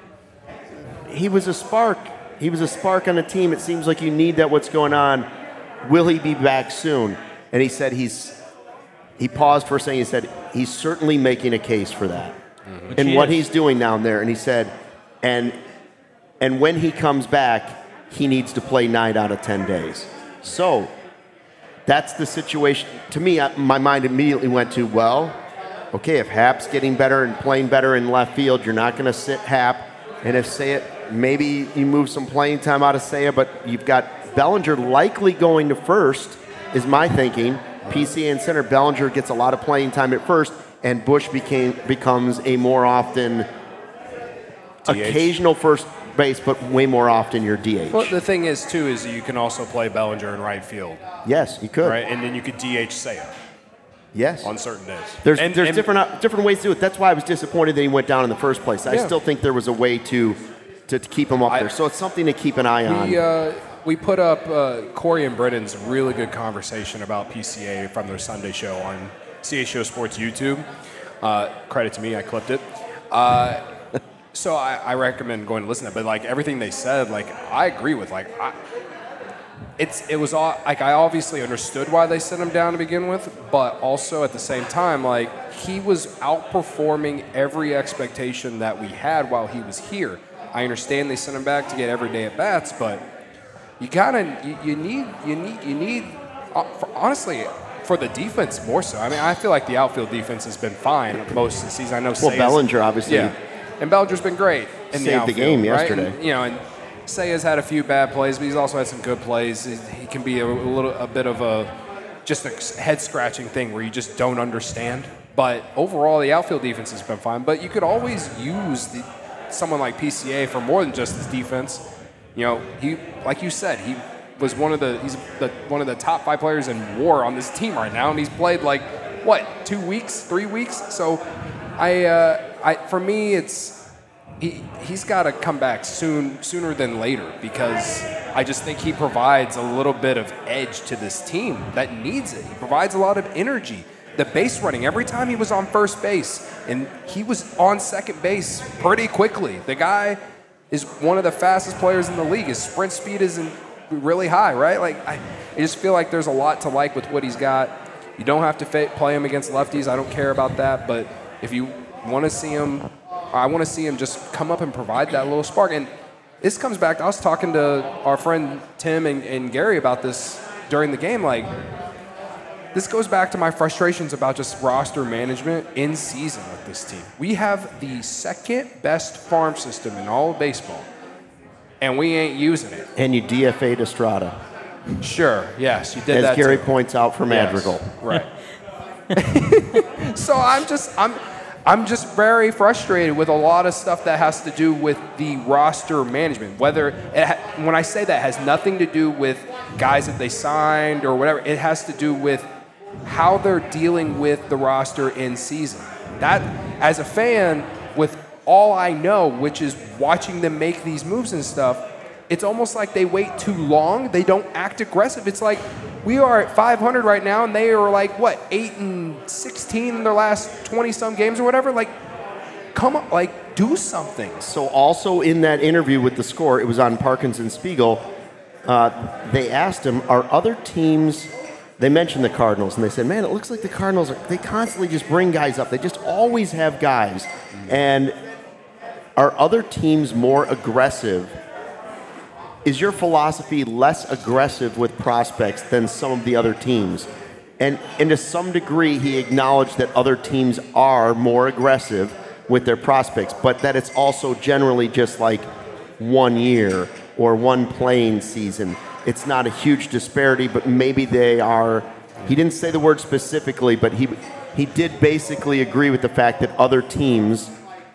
A: he was a spark. He was a spark on the team. It seems like you need that. What's going on? Will he be back soon? And he said he's. He paused for a second. He said he's certainly making a case for that, mm-hmm. and
C: he
A: what
C: is.
A: he's doing down there. And he said, and and when he comes back, he needs to play nine out of ten days. So that's the situation. To me, I, my mind immediately went to, well, okay, if Hap's getting better and playing better in left field, you're not going to sit Hap. And if Seiya, maybe you move some playing time out of Seiya, but you've got Bellinger likely going to first, is my thinking. P C A and center, Bellinger gets a lot of playing time at first, and Bush became becomes a more often
B: D H.
A: occasional first base, but way more often your D H.
B: Well, the thing is, too, is you can also play Bellinger in right field,
A: Yes, you could.
B: right? And then you could D H Seiya
A: Yes.
B: on certain days.
A: There's
B: And-
A: there's
B: and-
A: different uh, different ways to do it. That's why I was disappointed that he went down in the first place. I
B: Yeah.
A: still think there was a way to to, to keep him up
B: I-
A: there. So it's something to keep an eye on.
B: We, uh, we put up uh, Corey and Brennan's really good conversation about P C A from their Sunday show on C H O Sports YouTube. Uh, credit to me, I clipped it. Uh, so I, I recommend going to listen to it. But like everything they said, like I agree with. Like I, it's it was all, like I obviously understood why they sent him down to begin with, but also at the same time, like he was outperforming every expectation that we had while he was here. I understand they sent him back to get everyday at bats, but you gotta you, you need you need you need uh, for, honestly for the defense more so. I mean, I feel like the outfield defense has been fine most of the season. I know.
A: Well,
B: Seiya's-
A: Bellinger obviously
B: Yeah, and Bellinger's been great in
A: saved
B: the
A: the
B: outfield,
A: game
B: right?
A: yesterday.
B: And, you know, and Seiya's had a few bad plays, but he's also had some good plays. He, he can be a, a little, a bit of a just a head scratching thing where you just don't understand. But overall, the outfield defense has been fine. But you could always use the, someone like P C A for more than just his defense. You know, he, like you said, he was one of the he's the, one of the top five players in WAR on this team right now, and he's played like what two weeks, three weeks. So, I, uh, I for me, it's he he's got to come back soon, sooner than later, because I just think he provides a little bit of edge to this team that needs it. He provides a lot of energy. The base running, every time he was on first base, and he was on second base pretty quickly. The guy is one of the fastest players in the league. His sprint speed isn't really high, right? Like I, I just feel like there's a lot to like with what he's got. You don't have to fa- play him against lefties. I don't care about that. But if you want to see him, I want to see him just come up and provide that little spark. And this comes back. I was talking to our friend Tim and, and Gary about this during the game. Like, this goes back to my frustrations about just roster management in season with this team. We have the second best farm system in all of baseball, and we ain't using it.
A: And you D F A'd Estrada,
B: Sure, yes, you did
A: as
B: that
A: Gary
B: too.
A: points out for Madrigal.
B: Yes, right. So I'm just I'm I'm just very frustrated with a lot of stuff that has to do with the roster management. Whether it ha- when I say that has nothing to do with guys that they signed or whatever, it has to do with how they're dealing with the roster in season. That, as a fan, with all I know, which is watching them make these moves and stuff, it's almost like they wait too long. They don't act aggressive. It's like we are at five hundred right now, and they are like, what, eight and sixteen in their last twenty-some games or whatever? Like, come on, like, do something.
A: So also in that interview with the Score, it was on Parkins and Spiegel, uh, they asked him, are other teams, they mentioned the Cardinals, and they said, man, it looks like the Cardinals, are, they constantly just bring guys up. They just always have guys. And are other teams more aggressive? Is your philosophy less aggressive with prospects than some of the other teams? And, and to some degree, he acknowledged that other teams are more aggressive with their prospects, but that it's also generally just like one year or one playing season. It's not a huge disparity, but maybe they are. He didn't say the word specifically, but he he did basically agree with the fact that other teams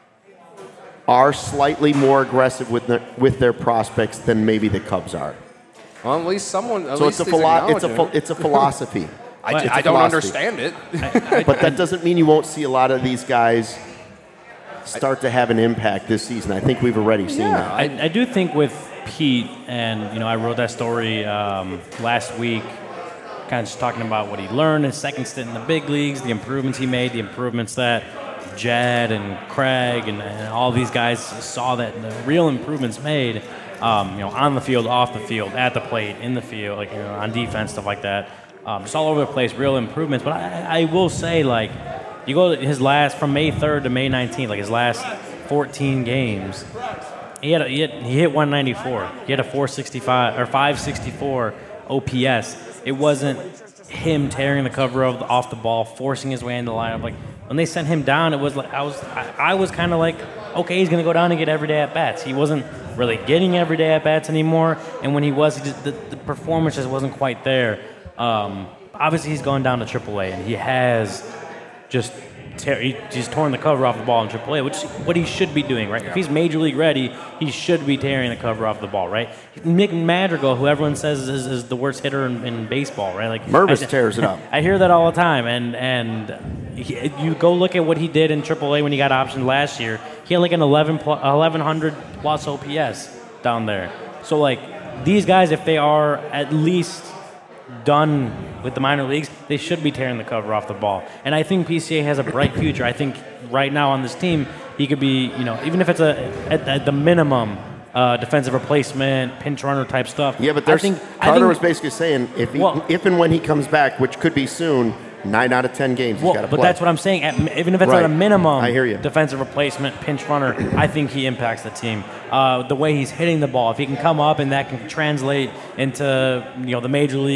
A: are slightly more aggressive with their, with their prospects than maybe the Cubs are.
B: Well, at least someone. At
A: So
B: least
A: it's a
B: he's
A: philo- it's a
B: acknowledging
A: ph- it's a philosophy.
B: I,
C: But
B: I
A: it's a
B: don't
A: philosophy.
B: understand it.
A: But that doesn't mean you won't see a lot of these guys start to have an impact this season. I think we've already seen that.
C: I, I do think with Pete, and you know, I wrote that story um, last week, kind of just talking about what he learned in his second stint in the big leagues, the improvements he made, the improvements that Jed and Craig and, and all these guys saw, that the real improvements made, um, you know, on the field, off the field, at the plate, in the field, like, you know, on defense, stuff like that. Um, just all over the place, real improvements. But I, I will say, like, you go to his last, from May third to May nineteenth, like his last fourteen games, he had, a, he, had he hit one ninety-four. He had a four sixty-five or five sixty-four O P S. It wasn't him tearing the cover of the, off the ball, forcing his way into the lineup. Like, when they sent him down, it was like I was I, I was kind of like, okay, he's gonna go down and get everyday at bats. He wasn't really getting everyday at bats anymore, and when he was, he just, the, the performance just wasn't quite there. Um, obviously, he's gone down to triple A, and he has just tear, he, he's torn the cover off the ball in triple A, which is what he should be doing, right? If he's major league ready, he should be tearing the cover off the ball, right? Nick Madrigal, who everyone says is, is the worst hitter in, in baseball, right? Like
A: Mervis
C: I,
A: tears it up.
C: I hear that all the time, and and he, you go look at what he did in triple A when he got optioned last year. He had like an eleven plus, eleven hundred plus O P S down there. So like these guys, if they are at least done with the minor leagues, they should be tearing the cover off the ball. And I think P C A has a bright future. I think right now on this team, he could be, you know, even if it's a at, at the minimum uh, defensive replacement, pinch runner type stuff.
A: Yeah, but there's,
C: I think,
A: Carter
C: I think,
A: was basically saying if he,
C: Well-
A: if and when he comes back, which could be soon, nine out of ten games
C: Well,
A: he's got to
C: but
A: play.
C: that's what I'm saying. At, even if it's
A: Right.
C: at a minimum,
A: I hear you.
C: defensive replacement, pinch runner, I think he impacts the team. Uh, the way he's hitting the ball, if he can come up and that can translate into, you know, the major league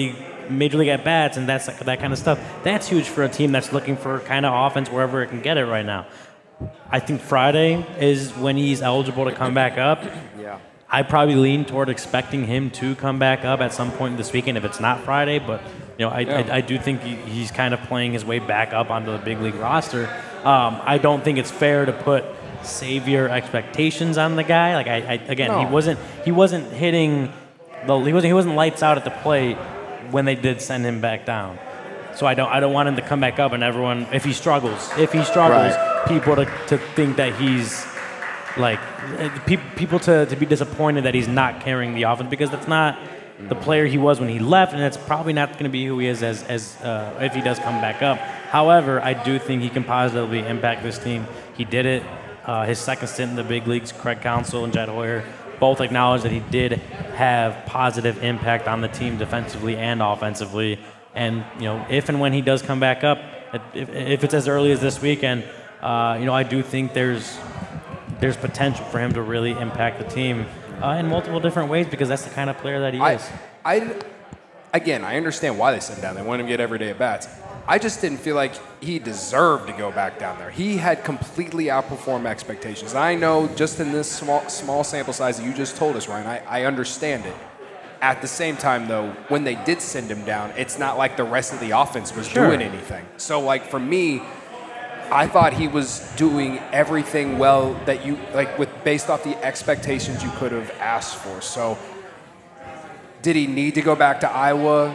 C: major league at bats and that's that kind of stuff. That's huge for a team that's looking for kind of offense wherever it can get it right now. I think Friday is when he's eligible to come back up.
A: Yeah.
C: I probably lean toward expecting him to come back up at some point this weekend if it's not Friday. But you know, I,
B: Yeah.
C: I, I do think he, he's kind of playing his way back up onto the big league roster. Um, I don't think it's fair to put savior expectations on the guy. Like I, I again,
B: No.
C: he wasn't he wasn't hitting the he wasn't he wasn't lights out at the plate when they did send him back down. So I don't I don't want him to come back up and everyone if he struggles if he struggles
A: Right.
C: people to, to think that he's like pe- people to, to be disappointed that he's not carrying the offense because that's not the player he was when he left and it's probably not going to be who he is as as uh, if he does come back up. However, I do think he can positively impact this team. He did it. Uh, his second stint in the big leagues, Craig Counsell and Jed Hoyer both acknowledged that he did have positive impact on the team defensively and offensively. And you know, if and when he does come back up, if, if it's as early as this weekend, uh, you know, I do think there's there's potential for him to really impact the team uh, in multiple different ways because that's the kind of player that he
B: I,
C: is.
B: I, again, I understand why they sent him down. They want him to get everyday at bats. I just didn't feel like he deserved to go back down there. He had completely outperformed expectations. I know just in this small small sample size that you just told us, Ryan, I, I understand it. At the same time, though, when they did send him down, it's not like the rest of the offense was
C: Sure.
B: doing anything. So, like, for me, I thought he was doing everything well that you, like, with based off the expectations you could have asked for. So, did he need to go back to Iowa?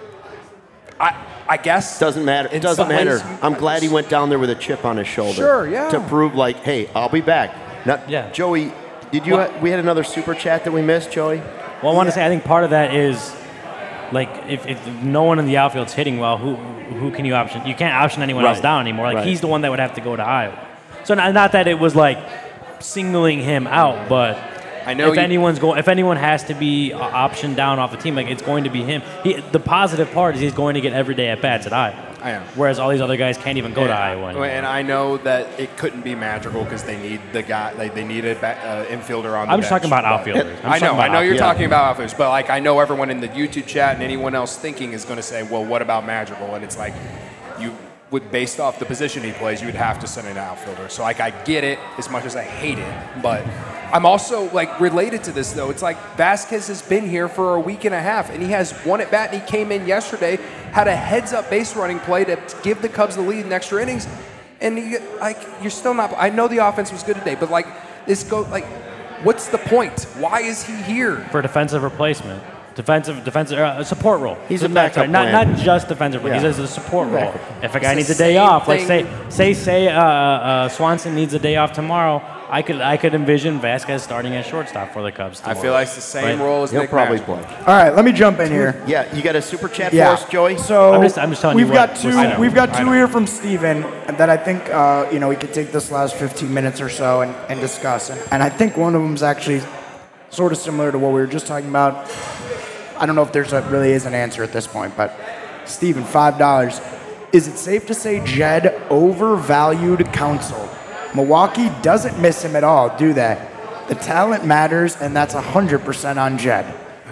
B: I I guess.
A: Doesn't matter. It
B: In
A: doesn't
B: some
A: matter.
B: ways,
A: I'm glad he went down there with a chip on his shoulder.
B: Sure, yeah.
A: To prove, like, hey, I'll be back. Now,
C: Yeah.
A: Joey, did you?
C: Well-
A: ha- we had another super chat that we missed, Joey.
C: Well, I want to say I think part of that is like if, if no one in the outfield's hitting well, who who can you option? You can't option anyone else
A: Right.
C: down anymore. Like
A: Right.
C: he's the one that would have to go to Iowa. So not, not that it was like singling him out, but
B: I know
C: if
B: you-
C: anyone's going, if anyone has to be uh, optioned down off the team, like it's going to be him. He, the positive part is he's going to get every day at bats at Iowa.
B: I am.
C: Whereas all these other guys can't even go to
B: Yeah.
C: Iowa anymore.
B: And I know that it couldn't be magical because they need the guy. Like they need an uh, infielder on the
C: I'm just
B: bench.
C: talking about
B: But-
C: outfielders. I'm
B: I
C: just
B: know.
C: talking
B: I
C: about
B: know you're
A: outfielders.
B: talking about outfielders, but like I know everyone in the YouTube chat and anyone else thinking is going to say, "Well, what about magical?" And it's like you would, based off the position he plays, you would have to send an outfielder. So like I get it as much as I hate it, but I'm also like related to this though. It's like Vasquez has been here for a week and a half, and he has one at bat, and he came in yesterday, had a heads-up base running play to give the Cubs the lead in extra innings, and he, like you're still not. I know the offense was good today, but like this go like, what's the point? Why is he here?
C: For defensive replacement. Defensive, defensive uh, support role.
A: He's a
C: Not-
A: backup
C: sorry, not
A: plan.
C: not just defensive role.
A: Yeah.
C: He's a support role. If a guy
B: It's
C: needs
B: the
C: a day
B: same
C: off, like say
B: thing.
C: say say uh, uh, Swanson needs a day off tomorrow, I could I could envision Vasquez starting at shortstop for the Cubs.
B: I
C: Tomorrow.
B: feel like it's the same
C: Right.
B: role as
A: He'll
B: Nick
A: probably
B: Magic.
A: play.
D: All right, let me jump in here.
A: Yeah, you got a super chat
D: Yeah.
A: for us, Joey?
D: So
C: I'm just- I'm just telling you
D: we've
C: what-
D: got two.
C: what's- I know.
D: We've got
B: I
D: two
B: know.
D: here from Steven that I think uh, you know we could take this last fifteen minutes or so and, and discuss. And, and I think one of them is actually sort of similar to what we were just talking about. I don't know if there's a, really is an answer at this point, but Steven, five dollars. Is it safe to say Jed overvalued Counsell? Milwaukee doesn't miss him at all, do they? The talent matters, and that's one hundred percent on Jed.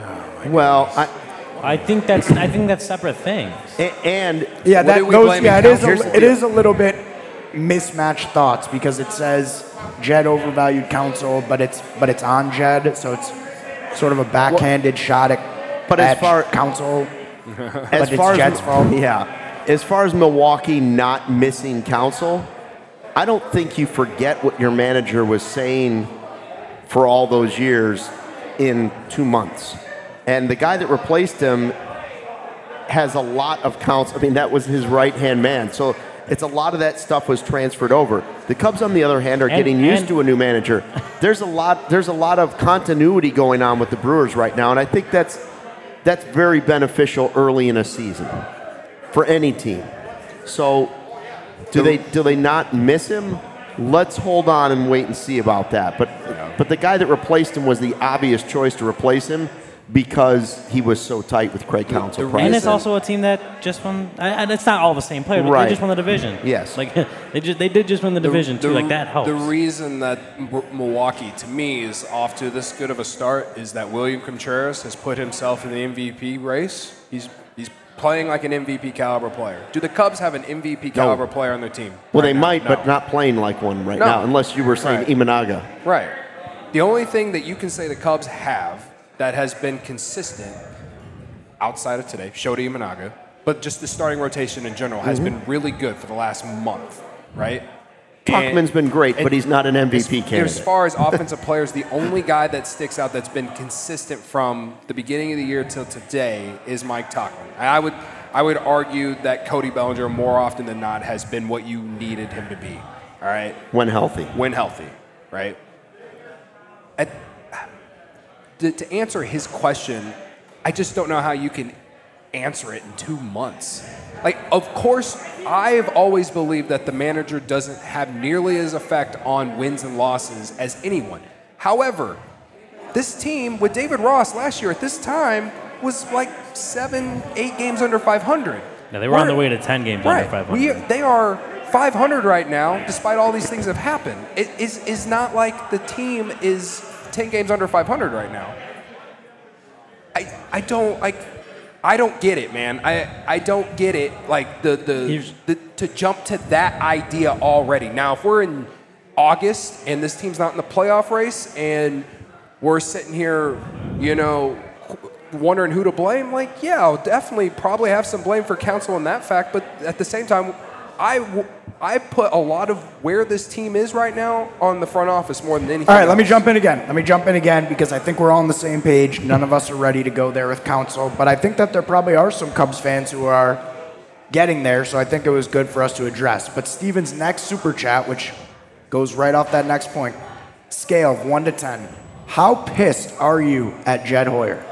A: Well, I,
C: I think that's I think that's separate things.
A: a- and
D: Yeah,
B: What
D: that
B: are we
D: those,
B: blaming
D: yeah, it is,
A: Here's
D: a,
A: the
D: it
A: deal.
D: is a little bit mismatched thoughts because it says Jed overvalued Counsell, but it's but it's on Jed, so it's sort of a backhanded shot at,
A: But as
D: at
A: far-
D: Counsell.
A: as
D: it's
A: far
D: Jed's
A: as
D: fault.
A: yeah, as far as Milwaukee not missing Counsell, I don't think you forget what your manager was saying for all those years in two months. And the guy that replaced him has a lot of counts. I mean, that was his right-hand man. So it's a lot of that stuff was transferred over. The Cubs, on the other hand, are
C: And-
A: getting used
C: and-
A: to a new manager. There's a lot. There's a lot of continuity going on with the Brewers right now, and I think that's that's very beneficial early in a season for any team. So, do they do they not miss him? Let's hold on and wait and see about that. But but the guy that replaced him was the obvious choice to replace him because he was so tight with Craig Counsell.
B: the
A: prior.
C: And it's
B: reason-
C: also a team that just won. I, I, it's not all the same players, but
A: Right.
C: they just won the division.
A: Yes.
C: like they just they did just win the division too. Like that helps.
B: The reason that M- Milwaukee, to me, is off to this good of a start is that William Contreras has put himself in the M V P race. He's He's playing like an M V P caliber player. Do the Cubs have an M V P caliber
A: No.
B: player on their team?
A: Well,
B: right
A: they
B: now?
A: might,
B: No.
A: but not playing like one right
B: No.
A: now, unless you were saying
B: Right.
A: Imanaga.
B: Right. The only thing that you can say the Cubs have that has been consistent outside of today, Shota Imanaga, but just the starting rotation in general has been really good for the last month, right?
A: Tuchman's been great, but he's not an M V P
B: as,
A: candidate.
B: As far as offensive players, the only guy that sticks out that's been consistent from the beginning of the year till today is Mike Tuchman. And I would, I would argue that Cody Bellinger more often than not has been what you needed him to be. All right,
A: when healthy.
B: when healthy, right? At, to, to answer his question, I just don't know how you can answer it in two months. Like, of course, I've always believed that the manager doesn't have nearly as effect on wins and losses as anyone. However, this team with David Ross last year at this time was like seven, eight games under five hundred.
C: Yeah, they were on
B: We're-
C: the way to ten games
B: right.
C: under five hundred.
B: We, they are five hundred right now, despite all these things that have happened. It is is not like the team is ten games under five hundred right now. I I don't like. I don't get it, man. I, I don't get it. Like the the,
C: Here's-
B: the to jump to that idea already. Now, if we're in August and this team's not in the playoff race and we're sitting here, you know, wondering who to blame, like, yeah, I'll definitely probably have some blame for Counsell in that fact. But at the same time, I, w- I put a lot of where this team is right now on the front office more than anything.
D: All right, let me
B: else.
D: jump in again. Let me jump in again because I think we're all on the same page. None of us are ready to go there with Counsell, but I think that there probably are some Cubs fans who are getting there, so I think it was good for us to address. But Steven's next super chat, which goes right off that next point, scale of one to ten. How pissed are you at Jed Hoyer?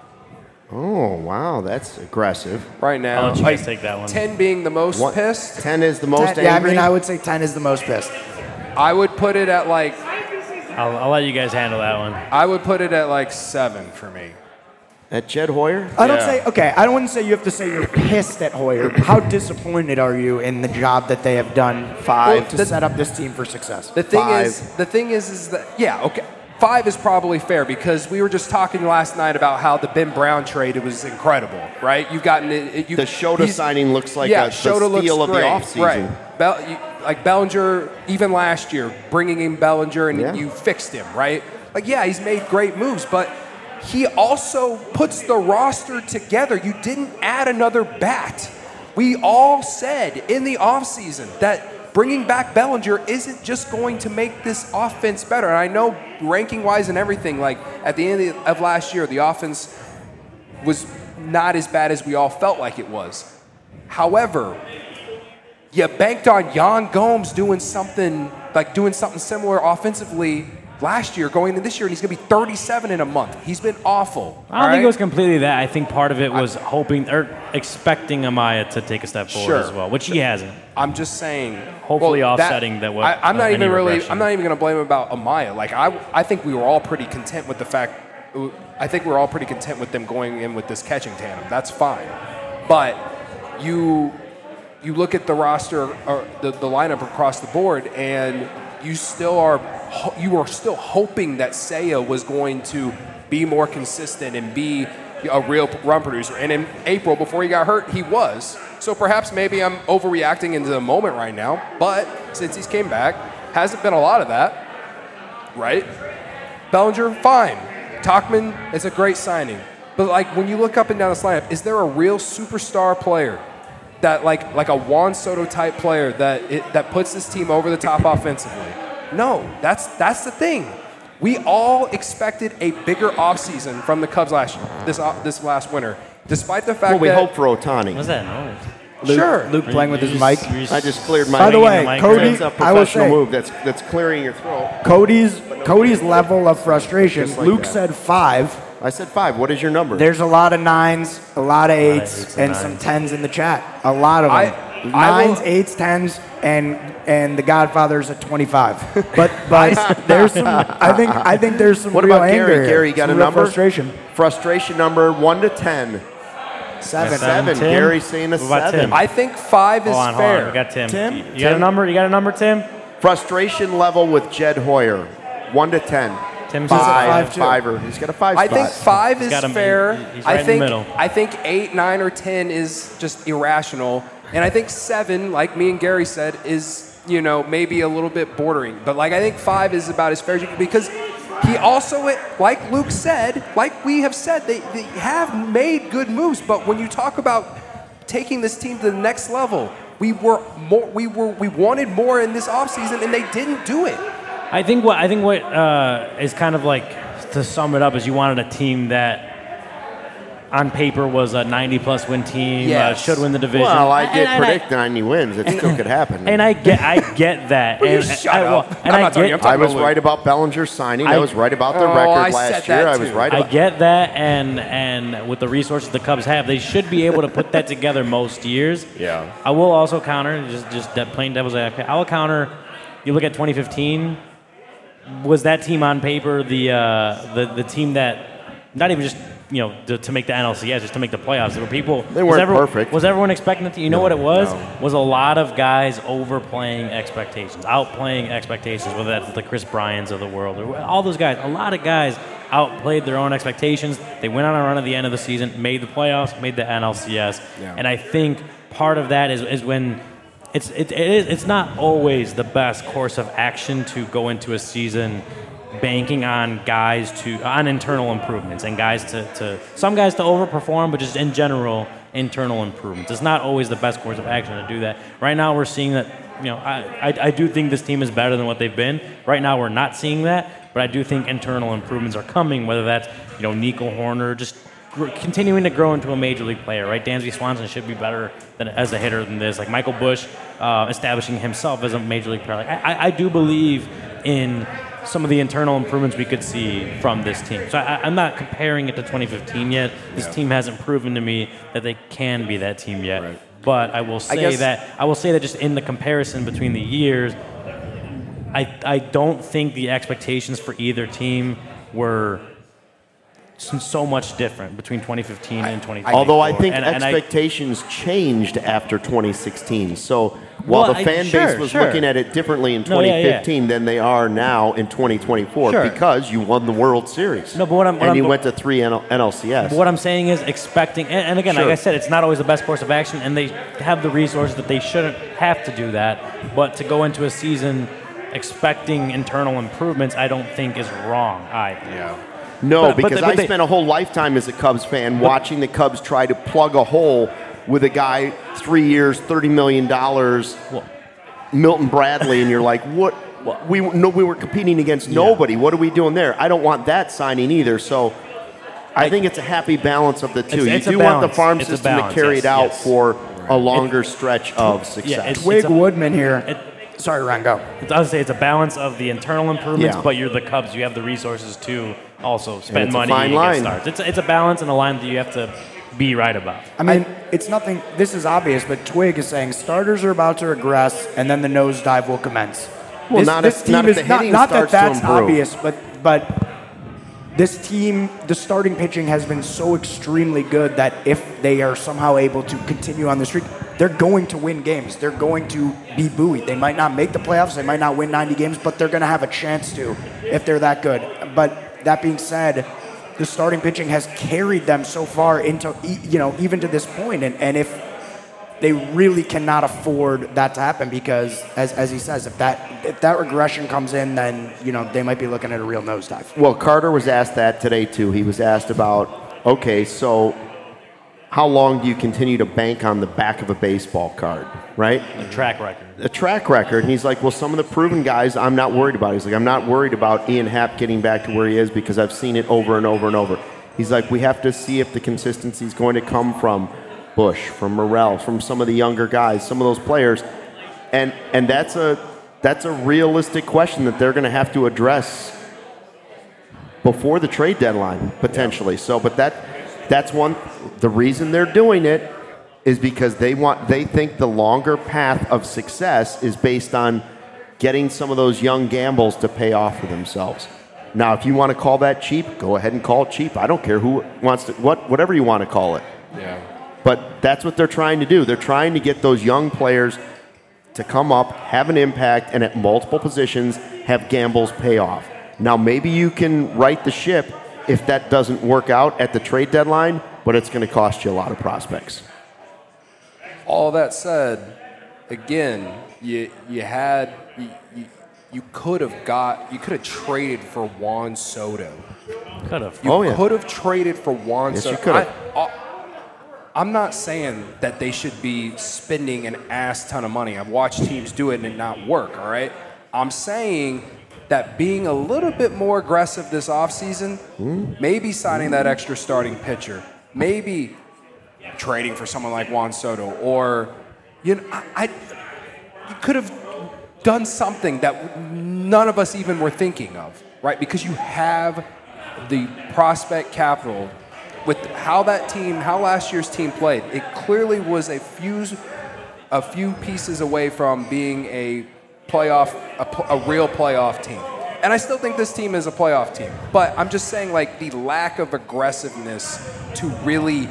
A: Oh, wow, that's aggressive.
B: right now.
C: I'll let you
B: like,
C: guys take that one.
B: ten being the most
A: What-
B: pissed.
A: ten is the most
D: ten, yeah, I
A: angry?
D: mean, I would say ten is the most pissed.
B: I would put it at like
C: I'll, I'll let you guys handle that one.
B: I would put it at like seven for me.
A: At Jed Hoyer?
D: I don't
B: Yeah.
D: say, okay, I don't want to say you have to say you're pissed at Hoyer. How disappointed are you in the job that they have done
A: Five.
D: to
B: the-
D: set up this team for success?
B: The thing
A: Five.
B: is, the thing is, is that yeah, okay, five is probably fair because we were just talking last night about how the Ben Brown trade it was incredible, right? You've gotten it. it- You,
A: The Shota
B: he's-
A: signing looks like
B: yeah,
A: a, the
B: Shota looks
A: steal of the
B: great,
A: offseason.
B: right? Bell, you, like Bellinger, even last year, bringing in Bellinger and
A: Yeah.
B: you fixed him, right? Like yeah, he's made great moves, but he also puts the roster together. You didn't add another bat. We all said in the offseason that bringing back Bellinger isn't just going to make this offense better. And I know ranking-wise and everything, like at the end of last year, the offense was not as bad as we all felt like it was. However, you banked on Yan Gomes doing something, like doing something similar offensively last year, going into this year, and he's going to be thirty-seven in a month. He's been awful.
C: I don't think it was completely that. I think part of it was hoping or expecting Amaya to take a step forward
B: Sure.
C: as well, which he hasn't.
B: I'm just saying.
C: Hopefully
B: well,
C: offsetting that what-
B: I, I'm
C: uh,
B: not
C: any
B: even really.
C: regression.
B: I'm not even going to blame him about Amaya. Like I, I think we were all pretty content with the fact. I think we were all pretty content with them going in with this catching tandem. That's fine, but you, you look at the roster or the, the lineup across the board, and you still are. You were still hoping that Seiya was going to be more consistent and be a real run producer. And in April, before he got hurt, he was. So perhaps maybe I'm overreacting into the moment right now. But since he's came back, hasn't been a lot of that, right? Bellinger, fine. Tachman is a great signing. But like when you look up and down this lineup, is there a real superstar player that like like a Juan Soto type player that it, that puts this team over the top offensively? No, that's that's the thing. We all expected a bigger offseason from the Cubs last year, this uh, this last winter, despite the fact
A: Well, we
B: that
A: hope for Ohtani.
C: What's that noise?
D: Luke,
B: sure.
D: Luke playing with
C: You
D: his
C: just-
D: mic.
C: you just-
A: I just cleared my
D: By the
C: Swinging
D: way,
C: the mic
D: Cody,
A: That's a
D: I will
A: professional
D: say,
A: move. That's that's clearing your throat.
D: Cody's Cody's level of frustration.
A: Just like
D: Luke
A: that.
D: said five.
A: I said five. What is your number?
D: There's a lot of nines, a lot of eights,
C: eights and
D: and some
C: nines.
D: tens in the chat. A lot of them.
B: I- I
D: Nines,
B: will-
D: eights, tens, and and the Godfather's at twenty-five. But but there's some. I think I think there's some
A: What
D: real
A: about
D: anger
A: Gary?
D: here.
A: Gary, you got
D: Some
A: a
D: real
A: number?
D: Frustration.
A: Frustration number one to ten.
D: Seven.
A: Seven.
C: Tim?
A: Gary's saying a
C: What about
A: seven.
C: Tim?
B: I think five is
C: Hold on, hold
B: fair.
C: on. We got Tim.
D: Tim?
C: You got
A: Tim?
C: a number? You got a number, Tim?
A: Frustration level with Jed Hoyer, one to ten.
C: Tim says
A: five,
D: five, too.
A: fiver. He's got a five
B: I
A: spot.
B: think five is
C: got him-
B: fair.
C: he- he's
B: I
C: right in the
B: think
C: middle.
B: I think eight, nine, or ten is just irrational, and I think seven, like me and Gary said, is you know maybe a little bit bordering. But like I think five is about as fair as you can because he also, like Luke said, like we have said, they, they have made good moves. But when you talk about taking this team to the next level, we were more, we were, we wanted more in this offseason, and they didn't do it.
C: I think what I think what uh, is kind of like to sum it up is you wanted a team that on paper was a ninety plus win team,
B: Yes.
C: uh, should win the division.
A: Well, I did
C: And- and
A: predict ninety wins. It still could happen.
C: And I get, I get that.
B: Will you
C: and,
B: shut
C: I, well,
B: up?
C: and
B: I'm
C: I
B: not talking-
C: get,
B: I'm talking
A: I was
B: about
A: right about Bellinger's signing. I,
C: I-
A: was right about the
B: Oh,
A: record
B: I
A: last
B: said
A: year.
B: that
A: I was
B: too.
A: right
C: I
A: about
C: get that, and and with the resources the Cubs have, they should be able to put that together most years.
B: Yeah.
C: I will also counter, just just that plain devil's advocate. I will counter. You look at twenty fifteen. Was that team on paper the uh, the the team that not even just you know to, to make the N L C S, just to make the playoffs? There were people.
A: They
C: was
A: weren't
C: everyone,
A: perfect.
C: Was everyone expecting it? To, you know what it was?
A: no.
C: Was a lot of guys overplaying expectations, outplaying expectations. Whether that's the Chris Bryans of the world or all those guys. A lot of guys outplayed their own expectations. They went on a run at the end of the season, made the playoffs, made the N L C S,
B: Yeah.
C: and I think part of that is is when. It's it, it is it's not always the best course of action to go into a season banking on guys to on internal improvements and guys to, to some guys to overperform, but just in general internal improvements. It's not always the best course of action to do that. Right now we're seeing that you know I, I, I do think this team is better than what they've been. Right now we're not seeing that, but I do think internal improvements are coming. Whether that's you know Nico Horner just gr- continuing to grow into a major league player, right? Dansby Swanson should be better than as a hitter than this. Like Michael Busch uh, establishing himself as a major league player. Like I, I, I do believe in some of the internal improvements we could see from this team. So I, I'm not comparing it to twenty fifteen yet. This
B: Yeah.
C: team hasn't proven to me that they can be that team yet.
B: Right.
C: But I will say
B: guess-
C: that I will say that just in the comparison between the years, I I don't think the expectations for either team were so so much different between twenty fifteen and twenty twenty-four.
A: Although I think
C: And- and I-
A: expectations changed after twenty sixteen. So while
C: Well,
A: the
C: I-
A: fan
C: sure,
A: base was
C: sure.
A: looking at it differently in
C: No, yeah,
A: twenty fifteen
C: yeah.
A: than they are now in twenty twenty-four
C: Sure.
A: because you won the World Series.
C: No, but what I'm- what
A: and
C: I'm-
A: you went to three N L C S.
C: But what I'm saying is expecting, and, and again,
A: Sure.
C: like I said, it's not always the best course of action, and they have the resources that they shouldn't have to do that. But to go into a season expecting internal improvements, I don't think is wrong either.
B: Yeah.
A: No,
C: But- but
A: because
C: they- but
A: I
C: they-
A: spent a whole lifetime as a Cubs fan watching the Cubs try to plug a hole with a guy three years, thirty million dollars,
C: Well-
A: Milton Bradley, and you're like, what? We no, we were competing against nobody. What are we doing there? I don't want that signing either. So I think it's a happy balance of the two.
C: It's-
A: you
C: it's a
A: do want the
C: balance.
A: farm
C: It's a
A: system
C: balance,
A: to carry
C: yes,
A: it out
C: yes.
A: for a longer stretch of success.
C: Yeah, it's-
D: Twig
C: a-
D: Woodman here.
C: it-
D: Sorry, Ryan, go.
C: It's- I would say it's a balance of the internal improvements,
A: Yeah.
C: but you're the Cubs. You have the resources to also spend
A: it's a
C: money
A: fine
C: and get
A: line.
C: starts. It's a, it's a balance and a line that you have to be right about.
D: I mean, it's nothing. This is obvious, but Twig is saying starters are about to regress, and then the nosedive will commence.
A: Well,
D: this,
A: not
D: this
A: if- not
D: team
A: if
D: is
A: the
D: not,
A: hitting
D: not that
A: starts to
D: that's
A: improve.
D: obvious, but but this team, the starting pitching has been so extremely good that if they are somehow able to continue on the streak, they're going to win games. They're going to be buoyed. They might not make the playoffs. They might not win ninety games, but they're going to have a chance to if they're that good. But that being said, the starting pitching has carried them so far into, e- you know, even to this point. And, and if they really cannot afford that to happen, because as, as he says, if that if that regression comes in, then, you know, they might be looking at a real nosedive.
A: Well, Carter was asked that today too. He was asked about, okay, so how long do you continue to bank on the back of a baseball card, right?
C: The track record.
A: A track record. And he's like, well, some of the proven guys I'm not worried about. He's like, I'm not worried about Ian Happ getting back to where he is because I've seen it over and over and over. He's like, we have to see if the consistency is going to come from Bush, from Morel, from some of the younger guys, some of those players. And and that's a that's a realistic question that they're going to have to address before the trade deadline, potentially. So, but that that's one. The reason they're doing it is because they want they think the longer path of success is based on getting some of those young gambles to pay off for themselves. Now, if you want to call that cheap, go ahead and call it cheap. I don't care who wants to what whatever you want to call it.
B: Yeah.
A: But that's what they're trying to do. They're trying to get those young players to come up, have an impact, and at multiple positions have gambles pay off. Now, maybe you can right the ship if that doesn't work out at the trade deadline, but it's going to cost you a lot of prospects.
B: All that said, again, you you had you, you, you could have got you could have traded for Juan Soto.
C: Could have.
B: You
A: Oh, yeah.
B: could have traded for Juan
A: Yes,
B: Soto.
A: you could have.
B: I, I, I'm not saying that they should be spending an ass ton of money. I've watched teams do it and it not work, all right? I'm saying that being a little bit more aggressive this offseason, mm. maybe signing that extra starting pitcher, maybe trading for someone like Juan Soto, or, you know, I, I you could have done something that none of us even were thinking of, right? Because you have the prospect capital. With how that team, how last year's team played, it clearly was a few, a few pieces away from being a playoff, a, a real playoff team. And I still think this team is a playoff team. But I'm just saying, like, the lack of aggressiveness to really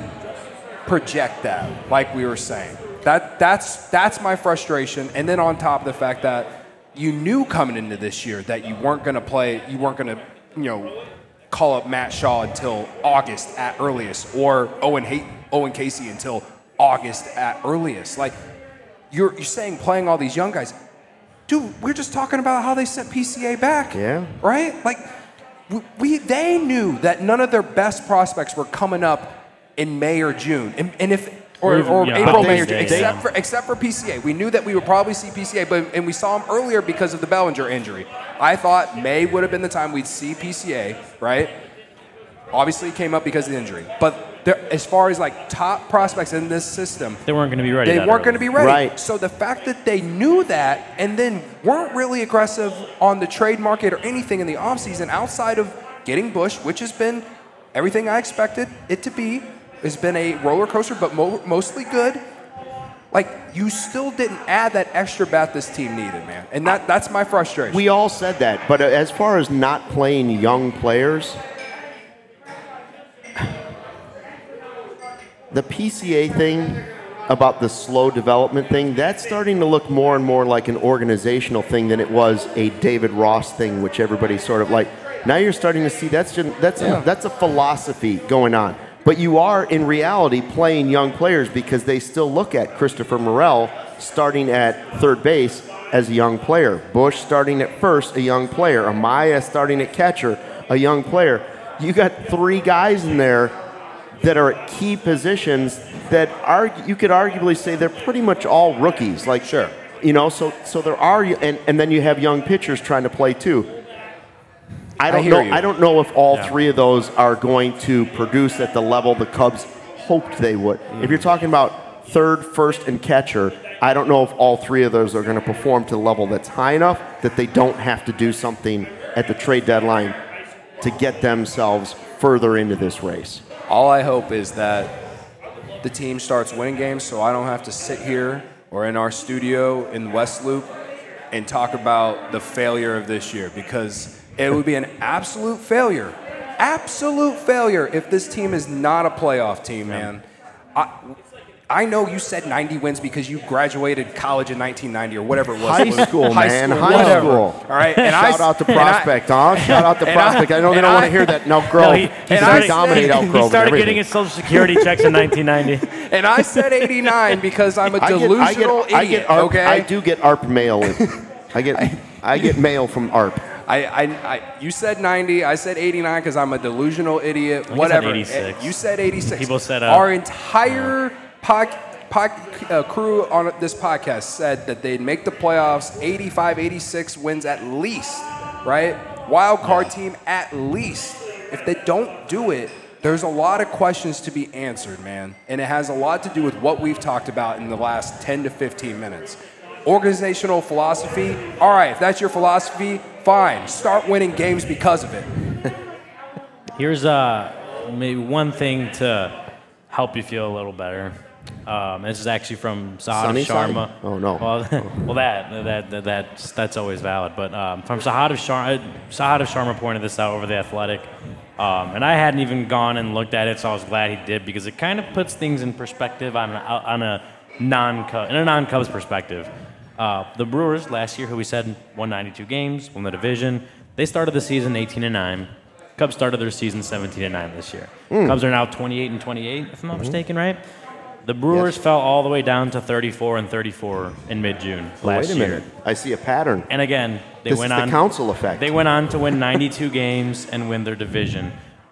B: project that, like we were saying. That that's that's my frustration. And then on top of the fact that you knew coming into this year that you weren't going to play, you weren't going to, you know, call up Matt Shaw until August at earliest, or Owen Hay- Owen Casey until August at earliest. Like, you're you're saying playing all these young guys. Dude, we're just talking about how they sent P C A back.
A: Yeah.
B: Right? Like, we, we they knew that none of their best prospects were coming up in May or June. And, and if or,
C: Or even,
B: or
C: yeah,
B: April,
C: they-
B: May, or
C: they-
B: June, except
C: yeah.
B: for except for P C A. We knew that we would probably see P C A, but and we saw him earlier because of the Bellinger injury. I thought May would have been the time we'd see P C A, right? Obviously, it came up because of the injury. But there, as far as like top prospects in this system,
C: They weren't going to be ready.
B: they
C: that
B: weren't
C: early.
B: going to be ready.
A: Right.
B: So the fact that they knew that and then weren't really aggressive on the trade market or anything in the offseason outside of getting Bush, which has been everything I expected it to be, has been a roller coaster, but mo- mostly good. Like, you still didn't add that extra bat this team needed, man. And that, that's my frustration.
A: We all said that, but as far as not playing young players, the P C A thing about the slow development thing, that's starting to look more and more like an organizational thing than it was a David Ross thing, which everybody sort of like. Now you're starting to see that's just, that's
B: Yeah.
A: a, that's a philosophy going on. But you are in reality playing young players because they still look at Christopher Morel starting at third base as a young player, Bush starting at first, a young player, Amaya starting at catcher, a young player. You got three guys in there that are at key positions that are, you could arguably say they're pretty much all rookies. Like,
B: Sure.
A: you know, so so there are, and, and then you have young pitchers trying to play too. I don't
B: hear
A: know.
B: you.
A: I don't know if all
C: Yeah.
A: three of those are going to produce at the level the Cubs hoped they would. If you're talking about third, first, and catcher, I don't know if all three of those are going to perform to the level that's high enough that they don't have to do something at the trade deadline to get themselves further into this race.
B: All I hope is that the team starts winning games so I don't have to sit here or in our studio in West Loop and talk about the failure of this year, because it would be an absolute failure, absolute failure if this team is not a playoff team, man. I, I know you said ninety wins because you graduated college in nineteen ninety or whatever it was.
A: High
B: It was
A: school, man, high
B: whatever.
A: school.
B: All right, and I
A: Shout out to
B: and I-
A: Prospect, huh? Shout out to
B: and I-
A: Prospect. I, know they
B: and
A: don't want
B: I-
A: to hear that. No, Grove.
C: No, he, he
A: He's
B: and
A: going
B: I
A: to dominate Elk
C: he
A: Grove. and
C: started
A: everything.
C: getting his Social Security checks in nineteen ninety.
B: And I said eighty-nine because I'm a
A: I get,
B: delusional
A: I get,
B: idiot.
A: I get ARP,
B: okay,
A: I do get ARP mail. I get I get mail from ARP.
B: I, I, I, you said ninety. I said eighty-nine because I'm a delusional idiot.
C: said
B: Whatever.
C: eighty-six.
B: You said eighty-six.
C: People said, uh,
B: our entire pod, pod, uh, crew on this podcast said that they'd make the playoffs. eighty-five, eighty-six wins at least, right? Wild card team at least. If they don't do it, there's a lot of questions to be answered, man, and it has a lot to do with what we've talked about in the last ten to fifteen minutes. Organizational philosophy, all right, if that's your philosophy, fine. Start winning games because of it.
C: Here's uh, maybe one thing to help you feel a little better. Um, this is actually from Sahad
A: Sunnyside?
C: Sharma.
A: Oh, no.
C: Well, well, that that, that that's that's always valid. But um, from Sahad Sharma, Sahad Sharma pointed this out over the Athletic, um, and I hadn't even gone and looked at it, so I was glad he did because it kind of puts things in perspective on a, on a non in a non-Cubs perspective. Uh, the Brewers last year, who we said won ninety-two games, won the division. They started the season eighteen and nine. Cubs started their season seventeen and nine this year.
A: Mm.
C: Cubs are now twenty-eight and twenty-eight, if I'm not
A: Mm-hmm.
C: mistaken, right? The Brewers
A: Yes.
C: fell all the way down to thirty-four and thirty-four in mid-June
A: Well,
C: last
A: wait a
C: year.
A: minute. I see a pattern.
C: And again, they
A: This
C: went
A: is the
C: on.
A: council effect.
C: They went on to win ninety-two games and win their division.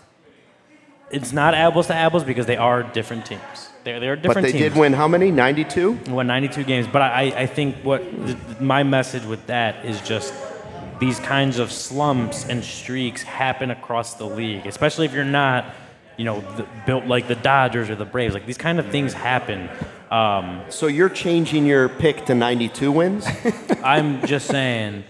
C: It's not apples to apples because they are different teams. They're, they're different
A: But they
C: teams.
A: did win how many? ninety-two?
C: Won ninety-two games. But I, I think what th- my message with that is just these kinds of slumps and streaks happen across the league, especially if you're not, you know, the, built like the Dodgers or the Braves. Like these kind of things happen. Um,
A: So you're changing your pick to ninety-two wins?
C: I'm just saying.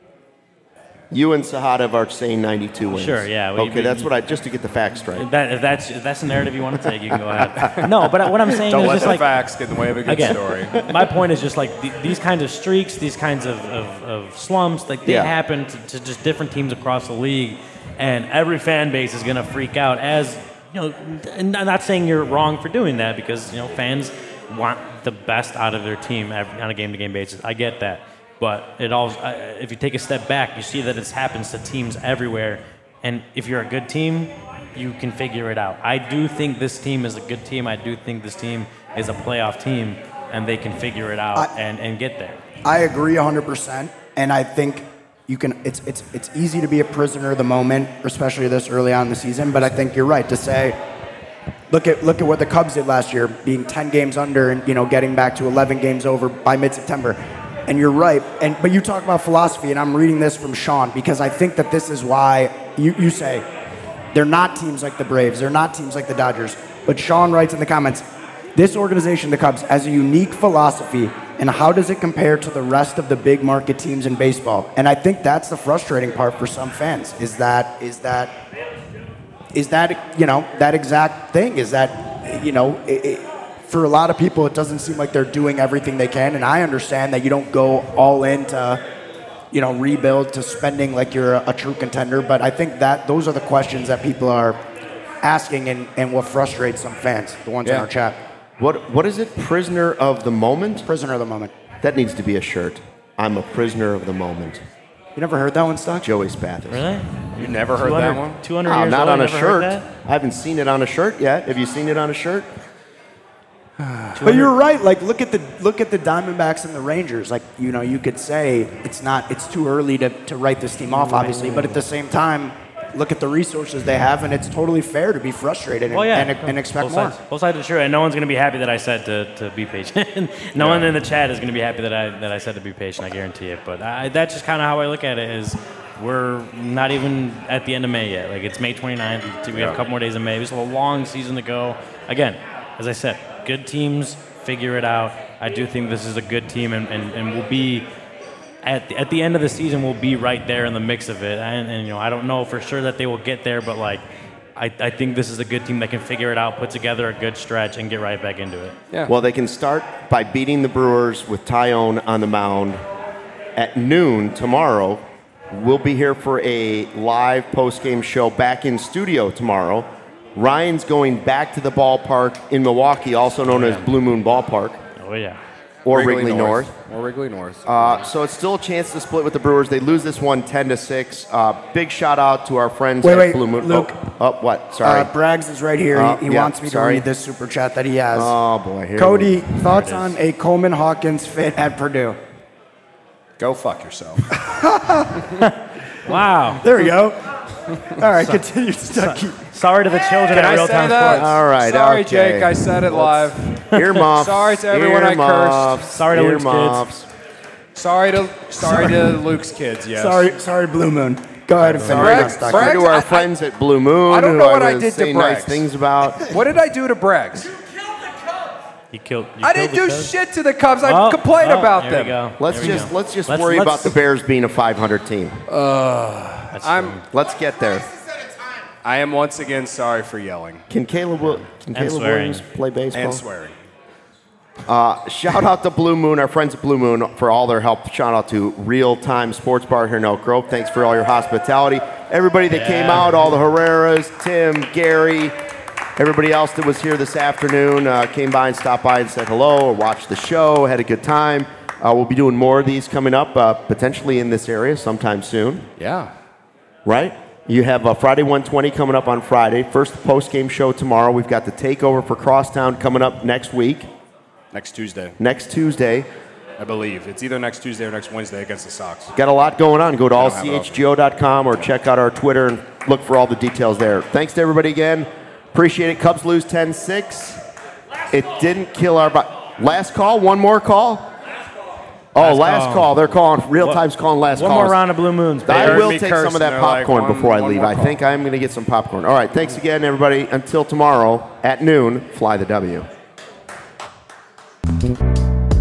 A: You and Sahadev are saying ninety-two wins.
C: Sure, yeah, we-
A: okay,
C: we-
A: that's what I just to get the facts straight.
C: That, if that's if that's the narrative you want to take, you can go ahead. No, but what I'm saying
B: Don't
C: is
B: let
C: just
B: the
C: like
B: facts get in the way of a good
C: again,
B: story.
C: my point is just like th- these kinds of streaks, these kinds of, of, of slumps, like they
A: Yeah.
C: happen to, to just different teams across the league, and every fan base is going to freak out. As you know, and I'm not saying you're wrong for doing that because you know fans want the best out of their team every, on a game-to-game basis. I get that. But it all, uh, if you take a step back, you see that it happens to teams everywhere. And if you're a good team, you can figure it out. I do think this team is a good team. I do think this team is a playoff team, and they can figure it out
D: I-
C: and, and get there.
D: I agree one hundred percent, and I think you can. It's it's it's easy to be a prisoner of the moment, especially this early on in the season. But I think you're right to say, look at look at what the Cubs did last year, being ten games under, and you know getting back to eleven games over by mid-September. And you're right. And but you talk about philosophy, and I'm reading this from Sean because I think that this is why you, you say they're not teams like the Braves, they're not teams like the Dodgers. But Sean writes in the comments, this organization, the Cubs, has a unique philosophy, and how does it compare to the rest of the big market teams in baseball? And I think that's the frustrating part for some fans is that is that is that you know that exact thing is that you know. It, it, For a lot of people, it doesn't seem like they're doing everything they can, and I understand that you don't go all in to, you know, rebuild to spending like you're a, a true contender. But I think that those are the questions that people are asking, and, and what frustrates some fans, the ones in
B: Yeah.
D: our chat.
A: What What is it? Prisoner of the moment?
D: Prisoner of the moment.
A: That needs to be a shirt. I'm a prisoner of the moment.
D: You never heard that one, Stock?
A: Joey Spathis.
C: Really?
B: You never heard that one?
C: two hundred
A: Oh,
C: years
A: not
C: old,
A: on a
C: never heard
A: shirt.
C: that?
A: I haven't seen it on a shirt yet. Have you seen it on a shirt?
D: But you're right. Like, look at the look at the Diamondbacks and the Rangers. Like, you know, you could say it's not it's too early to, to write this team off, obviously. But at the same time, look at the resources they have, and it's totally fair to be frustrated and,
C: Well, yeah.
D: and, and expect
C: both
D: more.
C: Sides, both sides are true, and no one's going to be happy that I said to, to be patient. no one in the chat is going to be happy that I that I said to be patient. I guarantee it. But I, that's just kind of how I look at it. Is we're not even at the end of May yet. Like it's May twenty-ninth. We have a couple more days of May. There's a long season to go. Again, as I said, good teams figure it out. I do think this is a good team, and, and, and we'll be at the, at the end of the season. We'll be right there in the mix of it. And, and you know, I don't know for sure that they will get there, but like. I, I think this is a good team that can figure it out, put together a good stretch, and get right back into it.
B: Yeah.
A: Well, they can start by beating the Brewers with Tyone on the mound at noon tomorrow. We'll be here for a live post-game show back in studio tomorrow. Ryan's going back to the ballpark in Milwaukee, also known as Blue Moon Ballpark,
C: Oh, yeah.
A: or Wrigley, North.
B: Or Wrigley North.
A: Uh, so it's still a chance to split with the Brewers. They lose this one ten to six. Uh, big shout out to our friends
D: Wait,
A: at
D: wait,
A: Blue Moon.
D: Luke.
A: Oh, oh, what? Sorry.
D: Uh, Braggs is right here.
A: Uh,
D: he he
A: yeah,
D: wants me
A: sorry.
D: to read this super chat that he has.
A: oh boy. Here
D: Cody,
A: we-
D: thoughts
C: There it is.
D: on a Coleman Hawkins fit at Purdue?
B: Go fuck yourself.
C: Wow.
D: There we go. All right, continue, Stucky.
C: Sorry to the children
B: Can
C: at
B: I
C: Real
B: say
C: Time
B: that?
C: Sports.
A: All right.
B: Sorry,
A: okay.
B: Jake. I said it live.
A: Earmuffs.
B: Sorry to everyone I cursed.
A: Earmuffs.
C: Sorry to Luke's kids.
A: Earmuffs.
B: Sorry to sorry to Luke's kids. Yes.
D: Sorry, sorry, Blue Moon. Go ahead and finish
B: Bragg-
D: that, Stucky.
B: Bragg-
A: To our
B: I-
A: friends at Blue Moon,
B: I don't
A: who
B: know what I
A: was
B: did to
A: saying nice
B: Braggs.
A: things about.
B: What did I do to Braggs?
C: You killed. You
B: I
C: killed
B: didn't
C: the
B: do
C: Cubs?
B: shit to the Cubs. I
C: Well,
B: complained
C: well,
B: about
C: there
B: them.
C: We go.
A: Let's
C: There we
A: just
C: go.
A: let's just
C: Let's-
A: worry
C: let's-
A: about the Bears being a five hundred team.
C: That's
B: I'm-
C: true.
A: Let's get there.
B: I am once again sorry for yelling
A: Can Caleb, Wil- can
C: And
A: Caleb
C: swearing.
A: Williams play baseball?
B: and swearing.
A: Shout out to Blue Moon, our friends at Blue Moon, for all their help. Shout out to Real Time Sports Bar here in Elk Grove. Thanks for all your hospitality. Everybody that came
C: Yeah.
A: out, all the Herreras, Tim, Gary, everybody else that was here this afternoon, uh, came by and stopped by and said hello or watched the show, had a good time. Uh, we'll be doing more of these coming up, uh, potentially in this area sometime soon.
B: Yeah.
A: right? You have uh, Friday one twenty coming up on Friday. First post-game show tomorrow. We've got the takeover for Crosstown coming up next week.
B: Next Tuesday.
A: Next Tuesday.
B: I believe. It's either next Tuesday or next Wednesday against the Sox.
A: Got a lot going on. Go to
B: I
A: all
B: don't
A: c
B: have
A: h g o dot com or check out our Twitter and look for all the details there. Thanks to everybody again. Appreciate it. Cubs lose ten six. It didn't kill our... Bo- last call? One more call? Oh,
C: Last
A: last
C: call.
A: call. They're calling, real time's calling last
C: One
A: calls.
C: more round of Blue Moons.
A: I
C: baby.
B: heard
A: will
B: me
A: take
B: curse
A: some of
B: and
A: that
B: they're like,
A: popcorn
B: one-
A: before I
B: one
A: leave.
B: more
A: I
B: call.
A: think I'm going to get some popcorn. All right, thanks again, everybody. Until tomorrow at noon, fly the W.